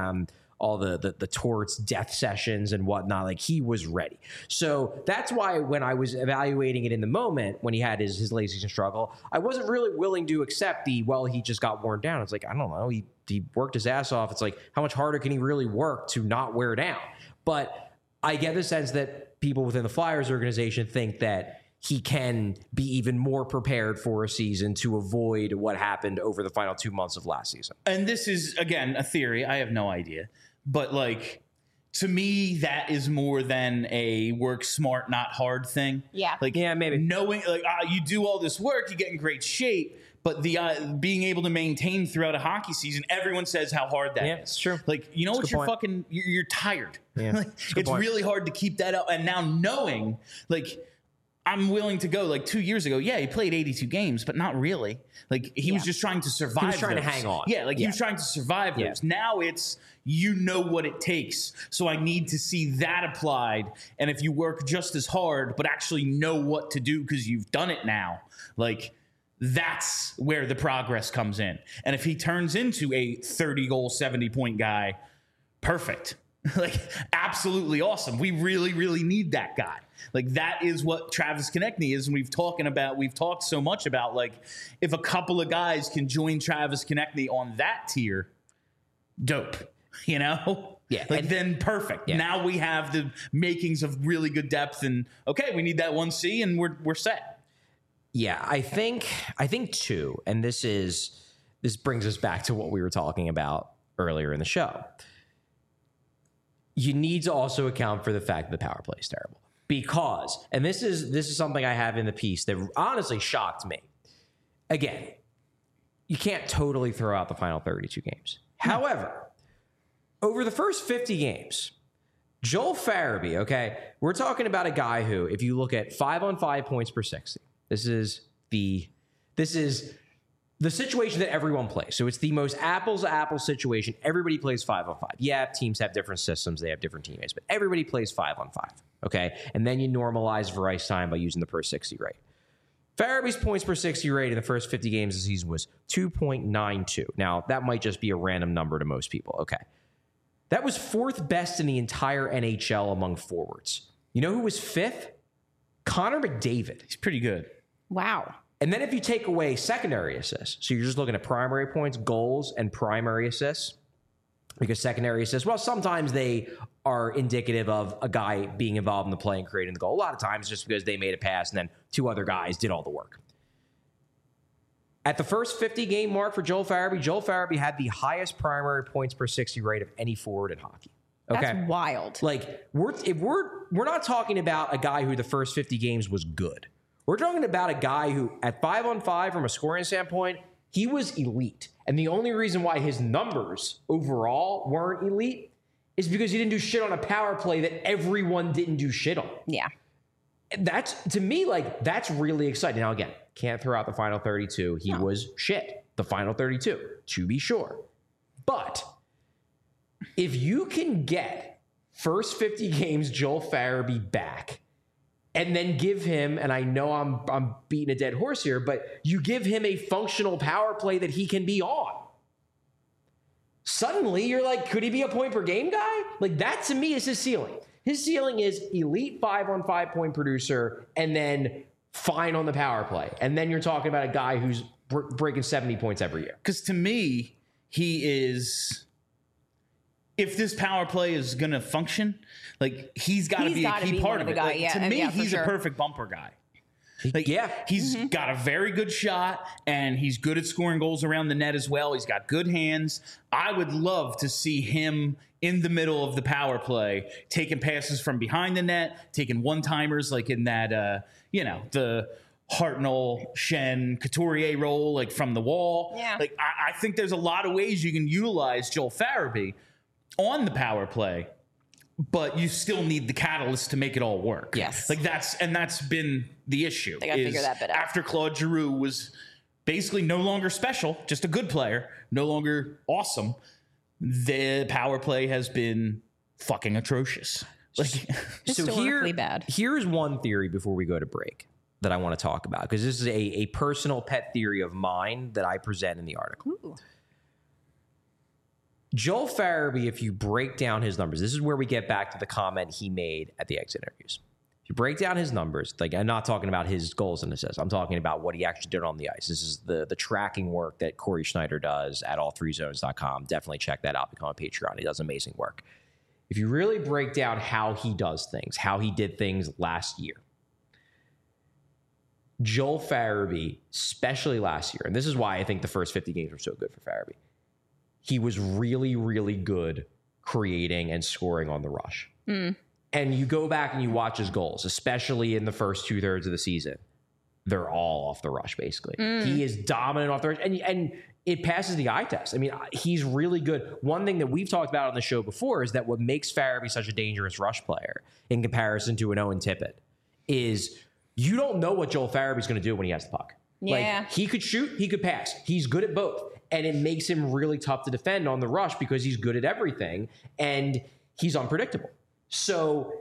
torts, death sessions and whatnot. Like, he was ready. So that's why when I was evaluating it in the moment, when he had his late season struggle, I wasn't really willing to accept he just got worn down. It's like, I don't know. He worked his ass off. It's like, how much harder can he really work to not wear down? But I get the sense that people within the Flyers organization think that he can be even more prepared for a season to avoid what happened over the final 2 months of last season. And this is, again, a theory. I have no idea. But, like, to me, that is more than a work smart, not hard thing. Yeah. Like, yeah, maybe. Knowing, like, you do all this work, you get in great shape, but the being able to maintain throughout a hockey season, everyone says how hard that is. It's true. Like, you know what, you're tired. Yeah, like, it's really hard to keep that up. And now knowing, like, I'm willing to go, like, 2 years ago, yeah, he played 82 games, but not really. Like, he was just trying to survive. He was trying to hang on. Yeah, like, he was trying to survive those. Now it's, you know what it takes. So I need to see that applied. And if you work just as hard, but actually know what to do because you've done it now, like, that's where the progress comes in. And if he turns into a 30-goal, 70-point guy, perfect. Like, absolutely awesome. We really, really need that guy. Like, that is what Travis Konechny is. And we've talked so much about, like, if a couple of guys can join Travis Konechny on that tier, dope, you know? Yeah. Like, then perfect. Yeah. Now we have the makings of really good depth, and okay, we need that 1C and we're set. Yeah, I think too, and this brings us back to what we were talking about earlier in the show. You need to also account for the fact that the power play is terrible. Because, and this is something I have in the piece that honestly shocked me. Again, you can't totally throw out the final 32 games. However, over the first 50 games, Joel Farabee, okay, we're talking about a guy who, if you look at 5-on-5 points per 60, this is the situation that everyone plays. So it's the most apples to apples situation. Everybody plays 5-on-5. Yeah, teams have different systems. They have different teammates, but everybody plays 5-on-5. Okay. And then you normalize for ice time by using the per 60 rate. Farabee's points per 60 rate in the first 50 games of the season was 2.92. Now, that might just be a random number to most people. Okay. That was fourth best in the entire NHL among forwards. You know who was fifth? Connor McDavid. He's pretty good. Wow. And then if you take away secondary assists, so you're just looking at primary points, goals, and primary assists, because secondary assists, well, sometimes they are indicative of a guy being involved in the play and creating the goal. A lot of times just because they made a pass and then 2 other guys did all the work. At the first 50-game mark for Joel Farabee had the highest primary points per 60 rate of any forward in hockey. Okay? That's wild. Like, we're not talking about a guy who the first 50 games was good. We're talking about a guy who, at 5-on-5 from a scoring standpoint, he was elite. And the only reason why his numbers overall weren't elite is because he didn't do shit on a power play that everyone didn't do shit on. Yeah. That's, to me, like, that's really exciting. Now, again, can't throw out the final 32. He was shit, the final 32, to be sure. But if you can get first 50 games Joel Farabee back and then give him, and I know I'm beating a dead horse here, but you give him a functional power play that he can be on. Suddenly, you're like, could he be a point per game guy? Like, that to me is his ceiling. His ceiling is elite 5-on-5 point producer and then fine on the power play. And then you're talking about a guy who's breaking 70 points every year. Because to me, he is, if this power play is going to function, like, he's got to be a key part of it. Guy, like, to me, he's a perfect bumper guy. Like, he's got a very good shot, and he's good at scoring goals around the net as well. He's got good hands. I would love to see him in the middle of the power play, taking passes from behind the net, taking one-timers like in that, the Hartnell, Shen, Couturier role, like from the wall. Yeah. Like, I think there's a lot of ways you can utilize Joel Farabee on the power play, but you still need the catalyst to make it all work. Yes. Like, that's been the issue. They got to figure that bit out. After Claude Giroux was basically no longer special, just a good player, no longer awesome, the power play has been fucking atrocious. Like, historically bad. Here's one theory before we go to break that I want to talk about, because this is a personal pet theory of mine that I present in the article. Ooh. Joel Farabee, if you break down his numbers, this is where we get back to the comment he made at the exit interviews. If you break down his numbers, like, I'm not talking about his goals and assists. I'm talking about what he actually did on the ice. This is the tracking work that Corey Schneider does at all3zones.com. Definitely check that out. Become a Patreon. He does amazing work. If you really break down how he does things, how he did things last year, Joel Farabee, especially last year, and this is why I think the first 50 games were so good for Farabee, he was really, really good creating and scoring on the rush. And you go back and you watch his goals, especially in the first 2/3 of the season. They're all off the rush, basically. He is dominant off the rush. And it passes the eye test. I mean, he's really good. One thing that we've talked about on the show before is that what makes Farabee such a dangerous rush player in comparison to an Owen Tippett is you don't know what Joel Farabee's going to do when he has the puck. Yeah. Like, he could shoot, he could pass. He's good at both. And it makes him really tough to defend on the rush because he's good at everything and he's unpredictable. So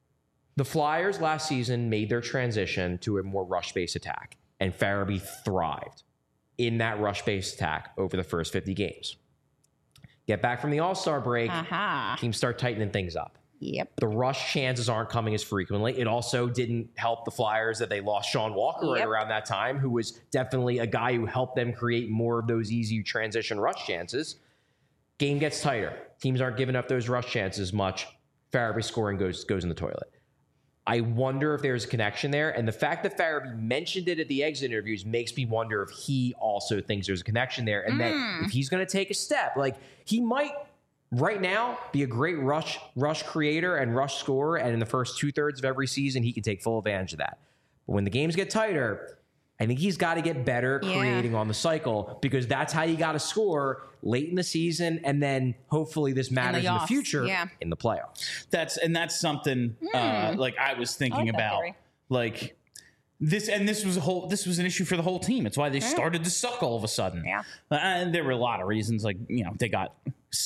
the Flyers last season made their transition to a more rush-based attack, and Farabee thrived in that rush-based attack over the first 50 games. Get back from the All-Star break, teams start tightening things up. Yep. The rush chances aren't coming as frequently. It also didn't help the Flyers that they lost Sean Walker right around that time, who was definitely a guy who helped them create more of those easy transition rush chances. Game gets tighter. Teams aren't giving up those rush chances much. Farabee scoring goes in the toilet. I wonder if there's a connection there. And the fact that Farabee mentioned it at the exit interviews makes me wonder if he also thinks there's a connection there. And that if he's going to take a step, like, he might right now be a great rush creator and rush scorer. And in the first 2/3 of every season, he can take full advantage of that. But when the games get tighter, I think he's got to get better creating on the cycle, because that's how you got to score late in the season. And then hopefully this matters in the future in the playoffs. That's something like I was thinking about, like this, and this was an issue for the whole team. It's why they started to suck all of a sudden. Yeah. And there were a lot of reasons, like, they got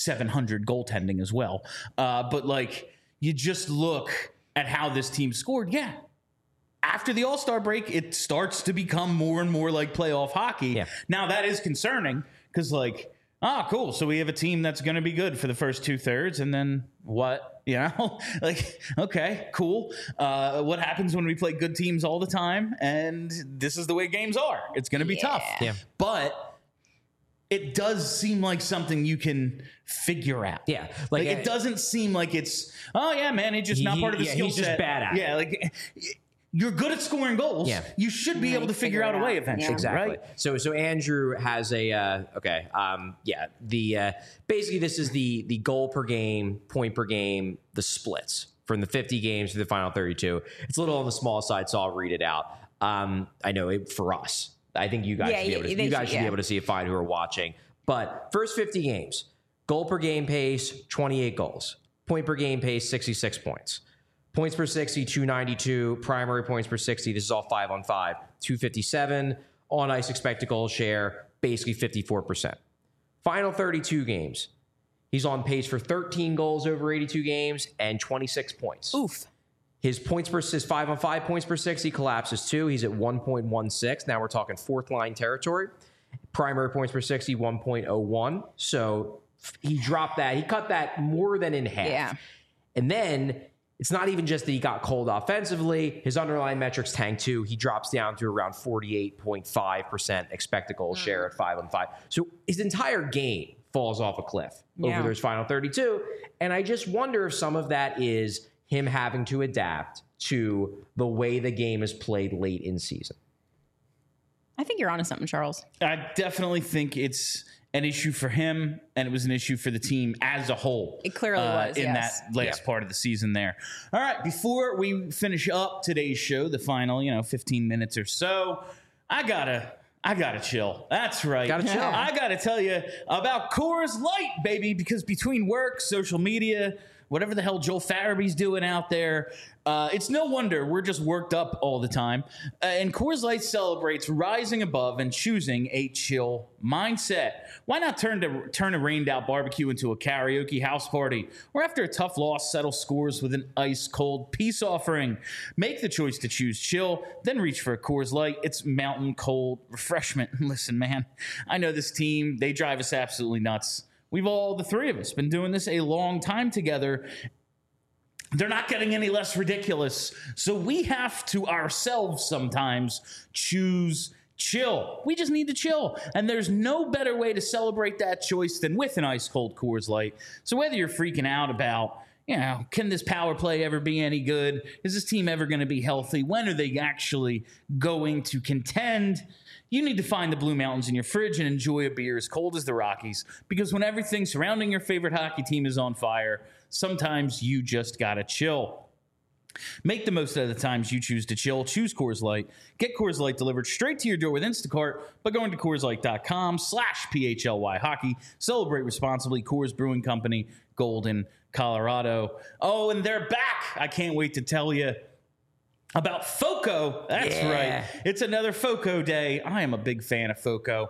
700 goaltending as well. But like, you just look at how this team scored. Yeah. After the All-Star break, it starts to become more and more like playoff hockey. Yeah. Now, that is concerning because, like, Cool. So we have a team that's going to be good for the first 2/3, and then what? Like, okay, cool. What happens when we play good teams all the time? And this is the way games are. It's going to be tough. Yeah. But it does seem like something you can figure out. Yeah. Like it doesn't seem like it's, oh yeah, man, he's just not part of the skill he's set. just bad at it. Yeah, like you're good at scoring goals. Yeah. You should be able to figure out a way eventually. Exactly. Right? So Andrew has a basically this is the goal per game, point per game, the splits from the 50 games to the final 32. It's a little on the small side, so I'll read it out. I know for us, I think you guys should be able to. You guys should be able to see it fine who are watching. But first 50 games, goal per game pace 28 goals, point per game pace 66 points. Points per 60, 292. Primary points per 60. This is all 5-on-5. 257. On ice expected goal share, basically 54%. Final 32 games. He's on pace for 13 goals over 82 games and 26 points. Oof. His 5-on-5 points per 60 collapses too. He's at 1.16. Now we're talking fourth line territory. Primary points per 60, 1.01. So he dropped that. He cut that more than in half. Yeah. And then it's not even just that he got cold offensively. His underlying metrics tanked too. He drops down to around 48.5% expected goal share at 5-on-5. So his entire game falls off a cliff over those final 32. And I just wonder if some of that is him having to adapt to the way the game is played late in season. I think you're onto something, Charles. I definitely think it's an issue for him, and it was an issue for the team as a whole. It clearly was, in that last part of the season there. All right, before we finish up today's show, the final 15 minutes or so, I gotta chill. That's right. Gotta chill. I gotta tell you about Coors Light, baby, because between work, social media, whatever the hell Joel Farabee's doing out there, it's no wonder we're just worked up all the time. And Coors Light celebrates rising above and choosing a chill mindset. Why not turn a rained-out barbecue into a karaoke house party? Or after a tough loss, settle scores with an ice-cold peace offering. Make the choice to choose chill, then reach for a Coors Light. It's mountain cold refreshment. Listen, man, I know this team. They drive us absolutely nuts. We've all, the three of us, been doing this a long time together. They're not getting any less ridiculous. So we have to ourselves sometimes choose chill. We just need to chill. And there's no better way to celebrate that choice than with an ice-cold Coors Light. So whether you're freaking out about, can this power play ever be any good? Is this team ever going to be healthy? When are they actually going to contend? You need to find the Blue Mountains in your fridge and enjoy a beer as cold as the Rockies, because when everything surrounding your favorite hockey team is on fire, sometimes you just gotta chill. Make the most of the times you choose to chill. Choose Coors Light. Get Coors Light delivered straight to your door with Instacart by going to CoorsLight.com/PHLY hockey. Celebrate responsibly. Coors Brewing Company, Golden, Colorado. Oh, and they're back. I can't wait to tell you about FOCO. That's right. It's another FOCO day. I am a big fan of FOCO.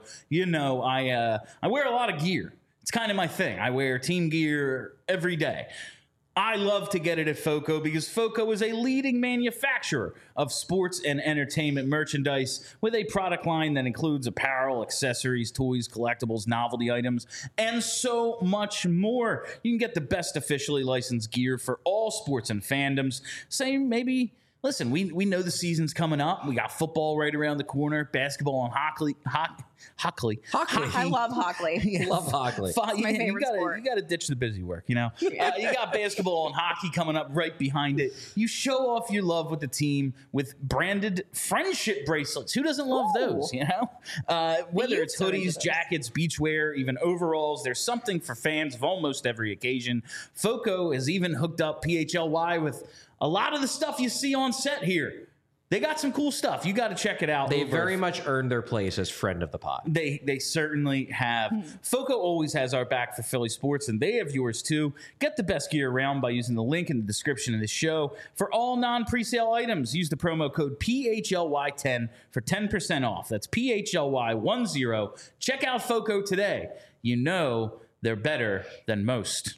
I wear a lot of gear. It's kind of my thing. I wear team gear every day. I love to get it at FOCO because FOCO is a leading manufacturer of sports and entertainment merchandise with a product line that includes apparel, accessories, toys, collectibles, novelty items, and so much more. You can get the best officially licensed gear for all sports and fandoms. Listen, we know the season's coming up. We got football right around the corner, basketball and hockey. I love Hockley. Love Hockley. My favorite sport. You got to ditch the busy work, You got basketball and hockey coming up right behind it. You show off your love with the team with branded friendship bracelets. Who doesn't love those, Whether it's hoodies, jackets, beachwear, even overalls, there's something for fans of almost every occasion. FOCO has even hooked up PHLY with a lot of the stuff you see on set here. They got some cool stuff. You got to check it out. They very much earned their place as friend of the pod. They certainly have. FOCO always has our back for Philly sports, and they have yours too. Get the best gear around by using the link in the description of this show. For all non-presale items, use the promo code PHLY10 for 10% off. That's PHLY10. Check out FOCO today. They're better than most.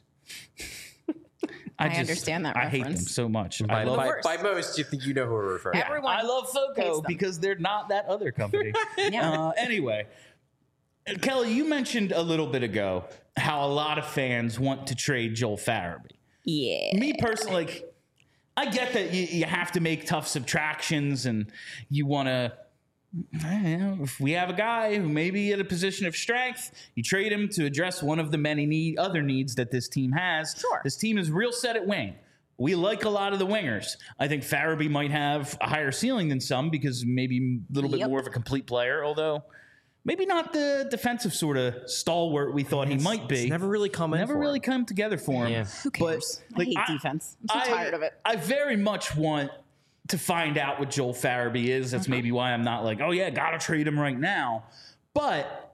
I understand that reference. I hate them so much. By most, you think you know who we're referring to. Everyone I love FOCO because they're not that other company. Yeah. Anyway, Kelly, you mentioned a little bit ago how a lot of fans want to trade Joel Farabee. Yeah. Me personally, like, I get that you have to make tough subtractions and you want to, if we have a guy who may be in a position of strength, you trade him to address one of the many other needs that this team has. Sure. This team is real set at wing. We like a lot of the wingers. I think Farabee might have a higher ceiling than some because maybe a little bit more of a complete player, although maybe not the defensive sort of stalwart we thought he might be. It's never really come together for him. Yeah. Who cares? I hate defense. I'm so tired of it. I very much want to find out what Joel Farabee is. That's maybe why I'm not like, oh yeah, gotta trade him right now. But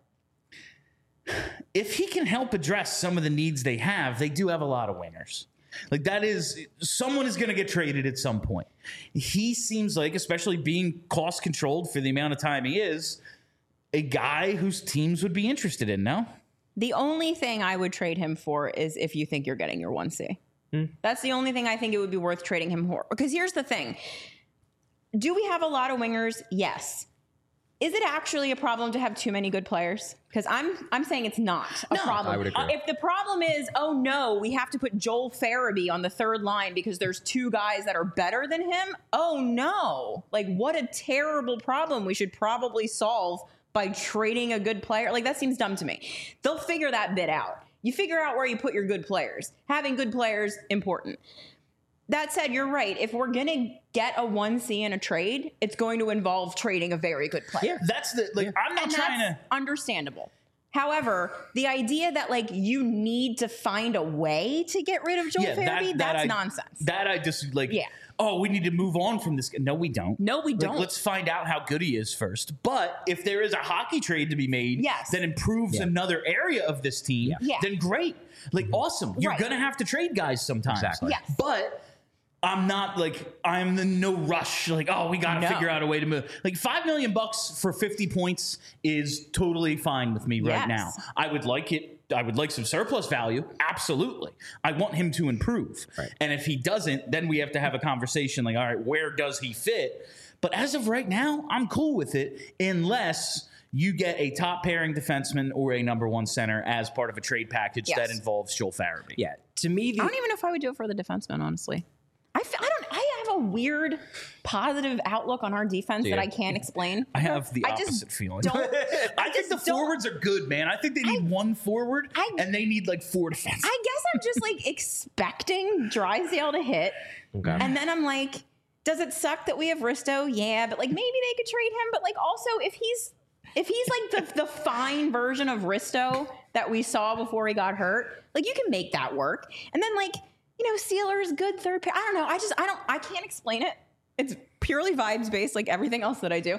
if he can help address some of the needs they have, they do have a lot of wingers. Like that is, someone is going to get traded at some point. He seems like, especially being cost controlled for the amount of time he is, a guy whose teams would be interested in, no? The only thing I would trade him for is if you think you're getting your 1C. That's the only thing I think it would be worth trading him for. Because here's the thing. Do we have a lot of wingers? Yes. Is it actually a problem to have too many good players? Because I'm saying it's not a problem. I would agree. If the problem is, oh no, we have to put Joel Farabee on the third line because there's two guys that are better than him. Oh no. Like what a terrible problem we should probably solve by trading a good player. Like that seems dumb to me. They'll figure that bit out. You figure out where you put your good players. Having good players, important. That said, you're right. If we're going to get a 1C in a trade, it's going to involve trading a very good player. Yeah, that's the, like, I'm not trying to. Understandable. However, the idea that like you need to find a way to get rid of Joel Farabee, that's nonsense. That I just like, oh, we need to move on from this. No, we don't. No, we don't. Let's find out how good he is first. But if there is a hockey trade to be made that improves another area of this team, then great. Like, awesome. You're going to have to trade guys sometimes. Exactly. Yes. But I'm not like, I'm in no rush. Like, oh, we got to figure out a way to move. Like $5 million for 50 points is totally fine with me right now. I would like it. I would like some surplus value. Absolutely. I want him to improve. Right. And if he doesn't, then we have to have a conversation like, all right, where does he fit? But as of right now, I'm cool with it unless you get a top pairing defenseman or a number one center as part of a trade package that involves Joel Farabee. Yeah. To me, I don't even know if I would do it for the defenseman, honestly. I have a weird positive outlook on our defense that I can't explain. I have the opposite feeling. I think the forwards are good, man. I think they need one forward and they need like 4 defensemen. I guess I'm just like expecting Drysdale to hit. Okay. And then I'm like, does it suck that we have Risto? Yeah, but like maybe they could trade him. But like also if he's like the fine version of Risto that we saw before he got hurt, like you can make that work. And then like, you know, Sealer's good third pair. I don't know. I can't explain it. It's purely vibes based, like everything else that I do.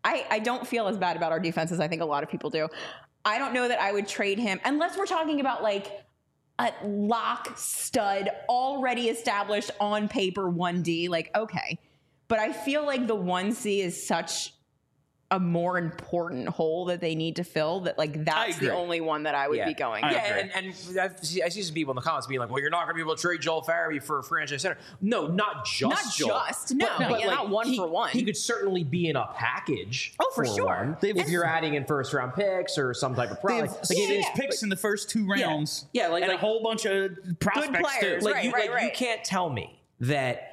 I don't feel as bad about our defense as I think a lot of people do. I don't know that I would trade him unless we're talking about like a lock stud already established on paper 1D. Like, okay. But I feel like the 1C is such a more important hole that they need to fill that like that's the only one that I would be going. And I see some people in the comments being like, well, you're not going to be able to trade Joel Farabee for a franchise center. No, not Joel. But like, not one for one. He could certainly be in a package. Oh, for sure. If you're adding in first round picks or some type of product. Like picks in the first 2 rounds. Like a whole bunch of prospects good players. too. You can't tell me that,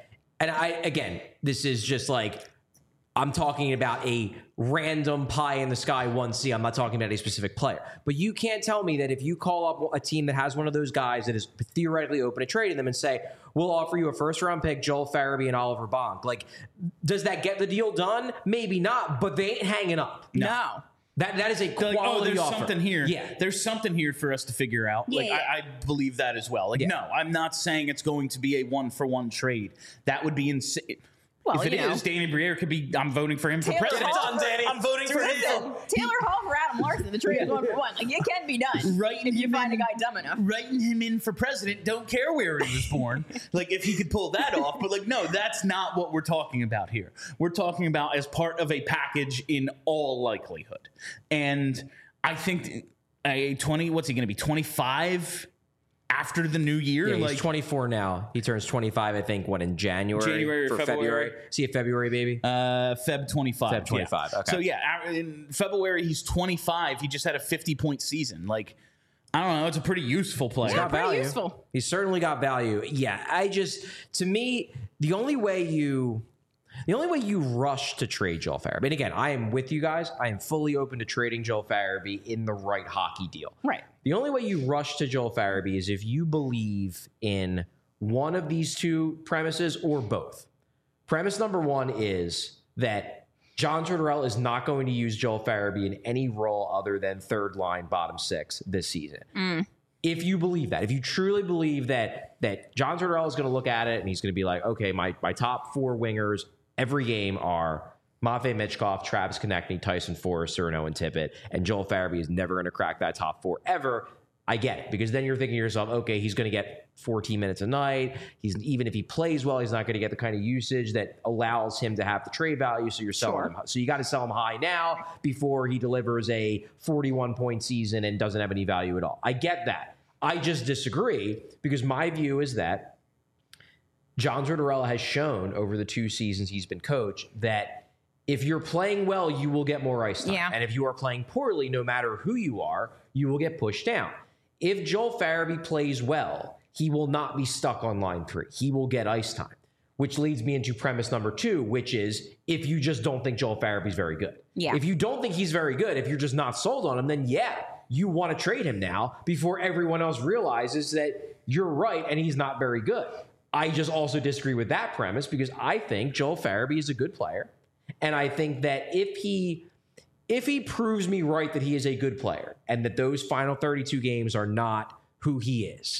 and this is just like, I'm talking about a random pie in the sky 1C. I'm not talking about a specific player. But you can't tell me that if you call up a team that has one of those guys that is theoretically open to trading them and say, we'll offer you a first-round pick, Joel Farabee and Oliver Bonk. Like, does that get the deal done? Maybe not, but they ain't hanging up. No. That is a quality there's offer. Something here. Yeah. There's something here for us to figure out. I believe that as well. No, I'm not saying it's going to be a 1-for-1 trade. That would be insane. Well, if it is, Danny Briere could be. I'm voting for him for president. I'm voting for him. Taylor Hall for Adam Larson. The trade is 1-for-1. Like it can be done. If you find a guy dumb enough. Writing him in for president. Don't care where he was born. Like if he could pull that off. But like no, that's not what we're talking about here. We're talking about as part of a package in all likelihood. And I think a 20. What's he going to be? 25. after the new year. Yeah, he's 24 now. He turns 25, I think, in January or February. See a February baby? Feb 25. Feb 25. Yeah. Okay. So yeah, in February he's 25. He just had a 50-point season. Like, I don't know. It's a pretty useful player. He's got pretty value. useful. He's certainly got value. Yeah, to me, the only way you rush to trade Joel Farabee, and again, I am with you guys. I am fully open to trading Joel Farabee in the right hockey deal. Right. The only way you rush to Joel Farabee is if you believe in one of these two premises or both. Premise number one is that John Tortorella is not going to use Joel Farabee in any role other than third line, bottom six this season. If you believe that, if you truly believe that John Tortorella is going to look at it and he's going to be like, okay, my top four wingers every game are Matvei Michkov, Travis Konechny, Tyson Forrester, and Owen Tippett, and Joel Farabee is never going to crack that top four ever. I get it, because then you're thinking to yourself, okay, he's going to get 14 minutes a night. Even if he plays well, he's not going to get the kind of usage that allows him to have the trade value. So you're selling him. So you got to sell him high now before he delivers a 41-point season and doesn't have any value at all. I get that. I just disagree, because my view is that John Tortorella has shown over the 2 seasons he's been coach that if you're playing well, you will get more ice time. Yeah. And if you are playing poorly, no matter who you are, you will get pushed down. If Joel Farabee plays well, he will not be stuck on line 3. He will get ice time, which leads me into premise number 2, which is if you just don't think Joel Farabee is very good. Yeah. If you don't think he's very good, if you're just not sold on him, then yeah, you want to trade him now before everyone else realizes that you're right and he's not very good. I just also disagree with that premise, because I think Joel Farabee is a good player. And I think that if he proves me right that he is a good player and that those final 32 games are not who he is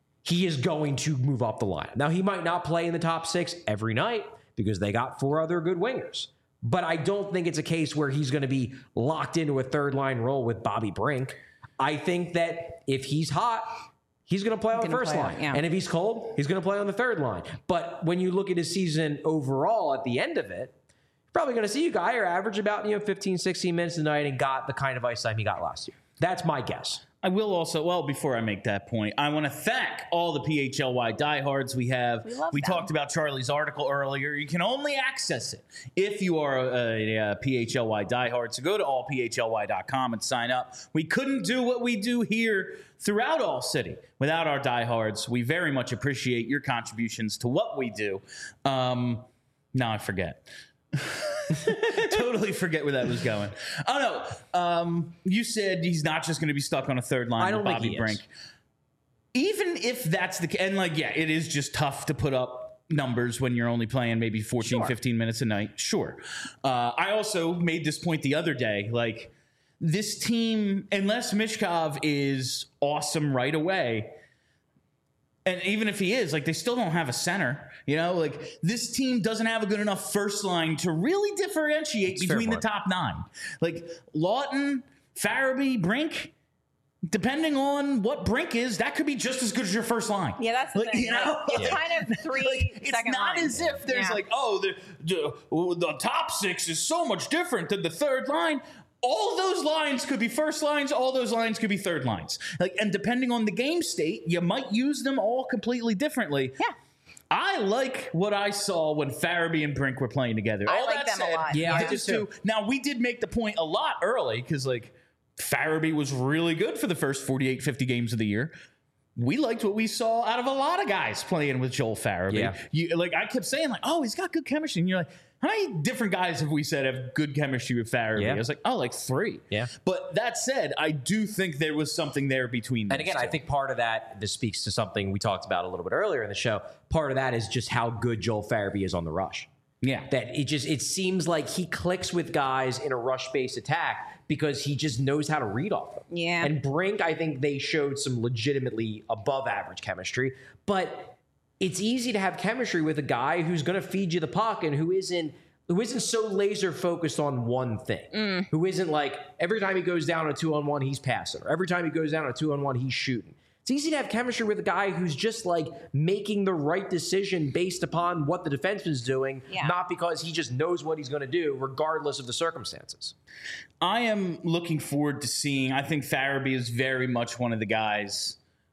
going to move up the line. Now, he might not play in the top 6 every night because they got 4 other good wingers. But I don't think it's a case where he's going to be locked into a third line role with Bobby Brink. I think that if he's hot, he's going to play on the first line. Yeah. And if he's cold, he's going to play on the third line. But when you look at his season overall at the end of it, you're probably going to see a guy who averaged about 15, 16 minutes a night and got the kind of ice time he got last year. That's my guess. I will also, well, before I make that point, I want to thank all the PHLY diehards we have. We talked about Charlie's article earlier. You can only access it if you are a PHLY diehard. So go to allphly.com and sign up. We couldn't do what we do here throughout All City without our diehards. We very much appreciate your contributions to what we do. Now I forget. Totally forget where that was going. Oh no, you said he's not just going to be stuck on a third line with Bobby Brink. Even if that's the case, and it is just tough to put up numbers when you're only playing maybe 14, 15 minutes a night. Sure. I also made this point the other day, this team, unless Michkov is awesome right away, and even if he is, they still don't have a center. This team doesn't have a good enough first line to really differentiate between the top 9. Lawton, Farabee, Brink, depending on what Brink is, that could be just as good as your first line. Yeah, that's the thing. It's kind of 3 it's second not lines. as if there's the top 6 is so much different than the third line. All those lines could be first lines. All those lines could be third lines. And depending on the game state, you might use them all completely differently. Yeah. I like what I saw when Farabee and Brink were playing together. I like them a lot. Yeah, I do too. Now, we did make the point a lot early because, Farabee was really good for the first 48, 50 games of the year. We liked what we saw out of a lot of guys playing with Joel Farabee. Yeah. I kept saying, he's got good chemistry. And you're like, how many different guys have we said have good chemistry with Farabee? Yeah. I was like, 3. Yeah. But that said, I do think there was something there between them. And again, I think part of that, this speaks to something we talked about a little bit earlier in the show. Part of that is just how good Joel Farabee is on the rush. Yeah. That it seems like he clicks with guys in a rush-based attack because he just knows how to read off them. Yeah. And Brink, I think they showed some legitimately above-average chemistry. But it's easy to have chemistry with a guy who's going to feed you the puck and who isn't so laser focused on one thing, who isn't every time he goes down on a 2-on-1, he's passing, or every time he goes down on a 2-on-1, he's shooting. It's easy to have chemistry with a guy who's just making the right decision based upon what the defenseman's doing, not because he just knows what he's going to do, regardless of the circumstances. I am looking forward to seeing, I think Farabee is very much one of the guys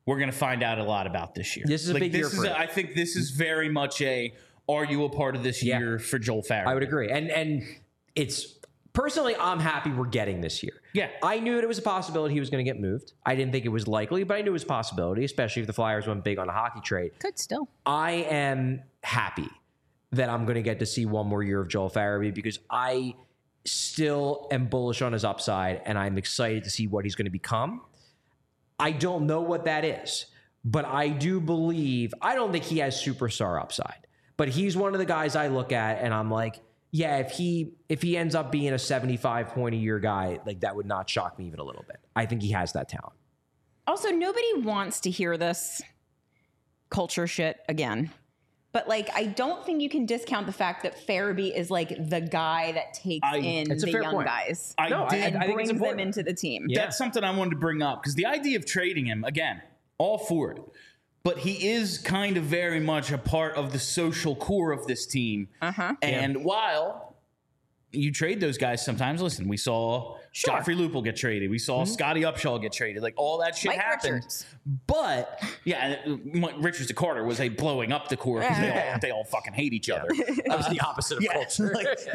we're going to find out a lot about this year. This is a big year for him. I think this is very much are you a part of this year for Joel Farabee? I would agree. And it's personally, I'm happy we're getting this year. Yeah. I knew it was a possibility he was going to get moved. I didn't think it was likely, but I knew it was a possibility, especially if the Flyers went big on a hockey trade. Could still. I am happy that I'm going to get to see one more year of Joel Farabee because I still am bullish on his upside and I'm excited to see what he's going to become. I don't know what that is, but I do believe, I don't think he has superstar upside, but he's one of the guys I look at and I'm like, yeah, if he ends up being a 75 point a year guy, like that would not shock me even a little bit. I think he has that talent. Also, nobody wants to hear this culture shit again. But, like, I don't think you can discount the fact that Farabee is, like, the guy that takes in the young guys. I think brings them into the team. Yeah. That's something I wanted to bring up because the idea of trading him, again, all for it. But he is kind of very much a part of the social core of this team. And while you trade those guys sometimes, listen, we saw Joffrey Lupul get traded. We saw Scotty Upshall get traded. Like, all that shit happened. Richards. But, yeah, Richards to Carter was blowing up the core because they all fucking hate each other. That was the opposite of culture.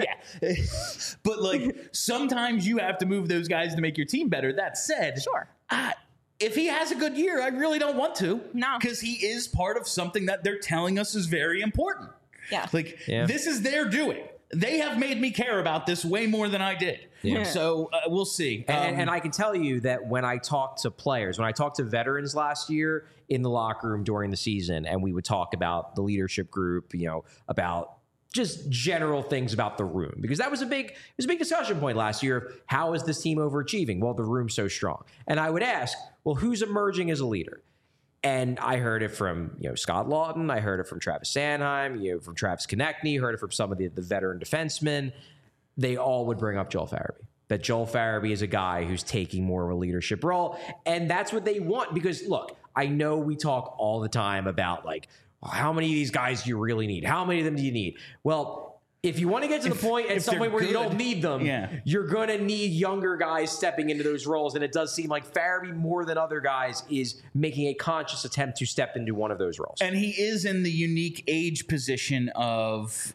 But, like, sometimes you have to move those guys to make your team better. That said, if he has a good year, I really don't want to. No. Because he is part of something that they're telling us is very important. Yeah. This is their doing. They have made me care about this way more than I did. Yeah. So we'll see. And I can tell you that when I talked to players, when I talked to veterans last year in the locker room during the season, and we would talk about the leadership group, about just general things about the room, because that was a big discussion point last year of how is this team overachieving? Well, the room's so strong. And I would ask, well, who's emerging as a leader? And I heard it from Scott Lawton. I heard it from Travis Sanheim, from Travis Konechny, heard it from some of the veteran defensemen. They all would bring up Joel Farabee. That Joel Farabee is a guy who's taking more of a leadership role. And that's what they want. Because, look, I know we talk all the time about, like, how many of these guys do you really need? How many of them do you need? Well, if you want to get to the point at some point where you don't need them, you're going to need younger guys stepping into those roles. And it does seem like Farabee, more than other guys, is making a conscious attempt to step into one of those roles. And he is in the unique age position of,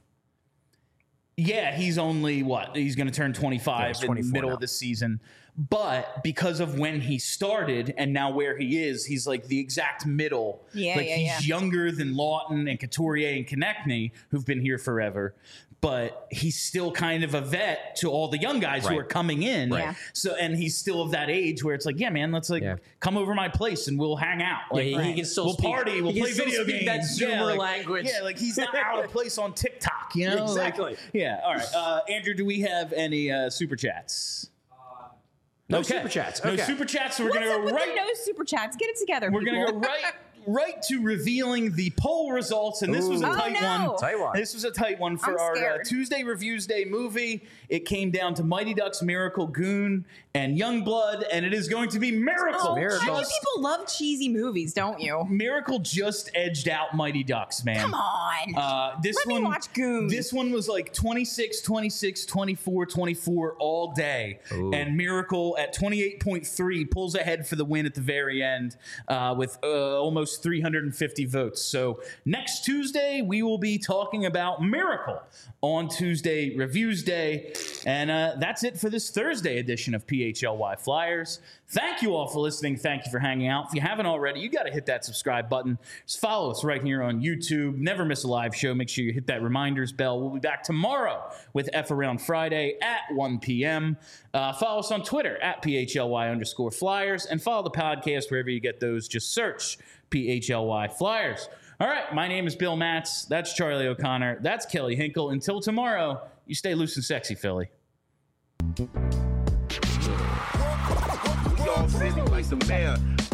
he's only he's going to turn 25 in the middle of the season. But because of when he started and now where he is, he's like the exact middle. He's younger than Lawton and Couturier and Konechny, who've been here forever. But he's still kind of a vet to all the young guys who are coming in. So, and he's still of that age where it's like, man, let's come over my place and we'll hang out. Like, he can still party, we'll play video games. That Zoomer language. Yeah, like he's not out of place on TikTok, Exactly. All right. Andrew, do we have any super chats? No super chats. Okay. No super chats. So we're going to go right. No super chats. Get it together. We're going to go right to revealing the poll results, and this was a tight one. This was a tight one for our Tuesday Reviews Day movie. It came down to Mighty Ducks, Miracle, Goon, and Youngblood, and it is going to be Miracle. Oh, how many people love cheesy movies, don't you? Miracle just edged out Mighty Ducks, man. Come on. Let me watch Goon. This one was like 26, 26, 24, 24 all day, and Miracle at 28.3 pulls ahead for the win at the very end with almost 350 votes. So next Tuesday, we will be talking about Miracle on Tuesday Reviews Day. And that's it for this Thursday edition of PHLY Flyers. Thank you all for listening. Thank you for hanging out. If you haven't already, you got to hit that subscribe button. Just follow us right here on YouTube. Never miss a live show. Make sure you hit that reminders bell. We'll be back tomorrow with F Around Friday at 1 p.m. Follow us on Twitter at PHLY_Flyers and follow the podcast wherever you get those. Just search PHLY Flyers. All right, my name is Bill Matz. That's Charlie O'Connor. That's Kelly Hinkle. Until tomorrow, you stay loose and sexy, Philly. Y'all sitting like the mayor.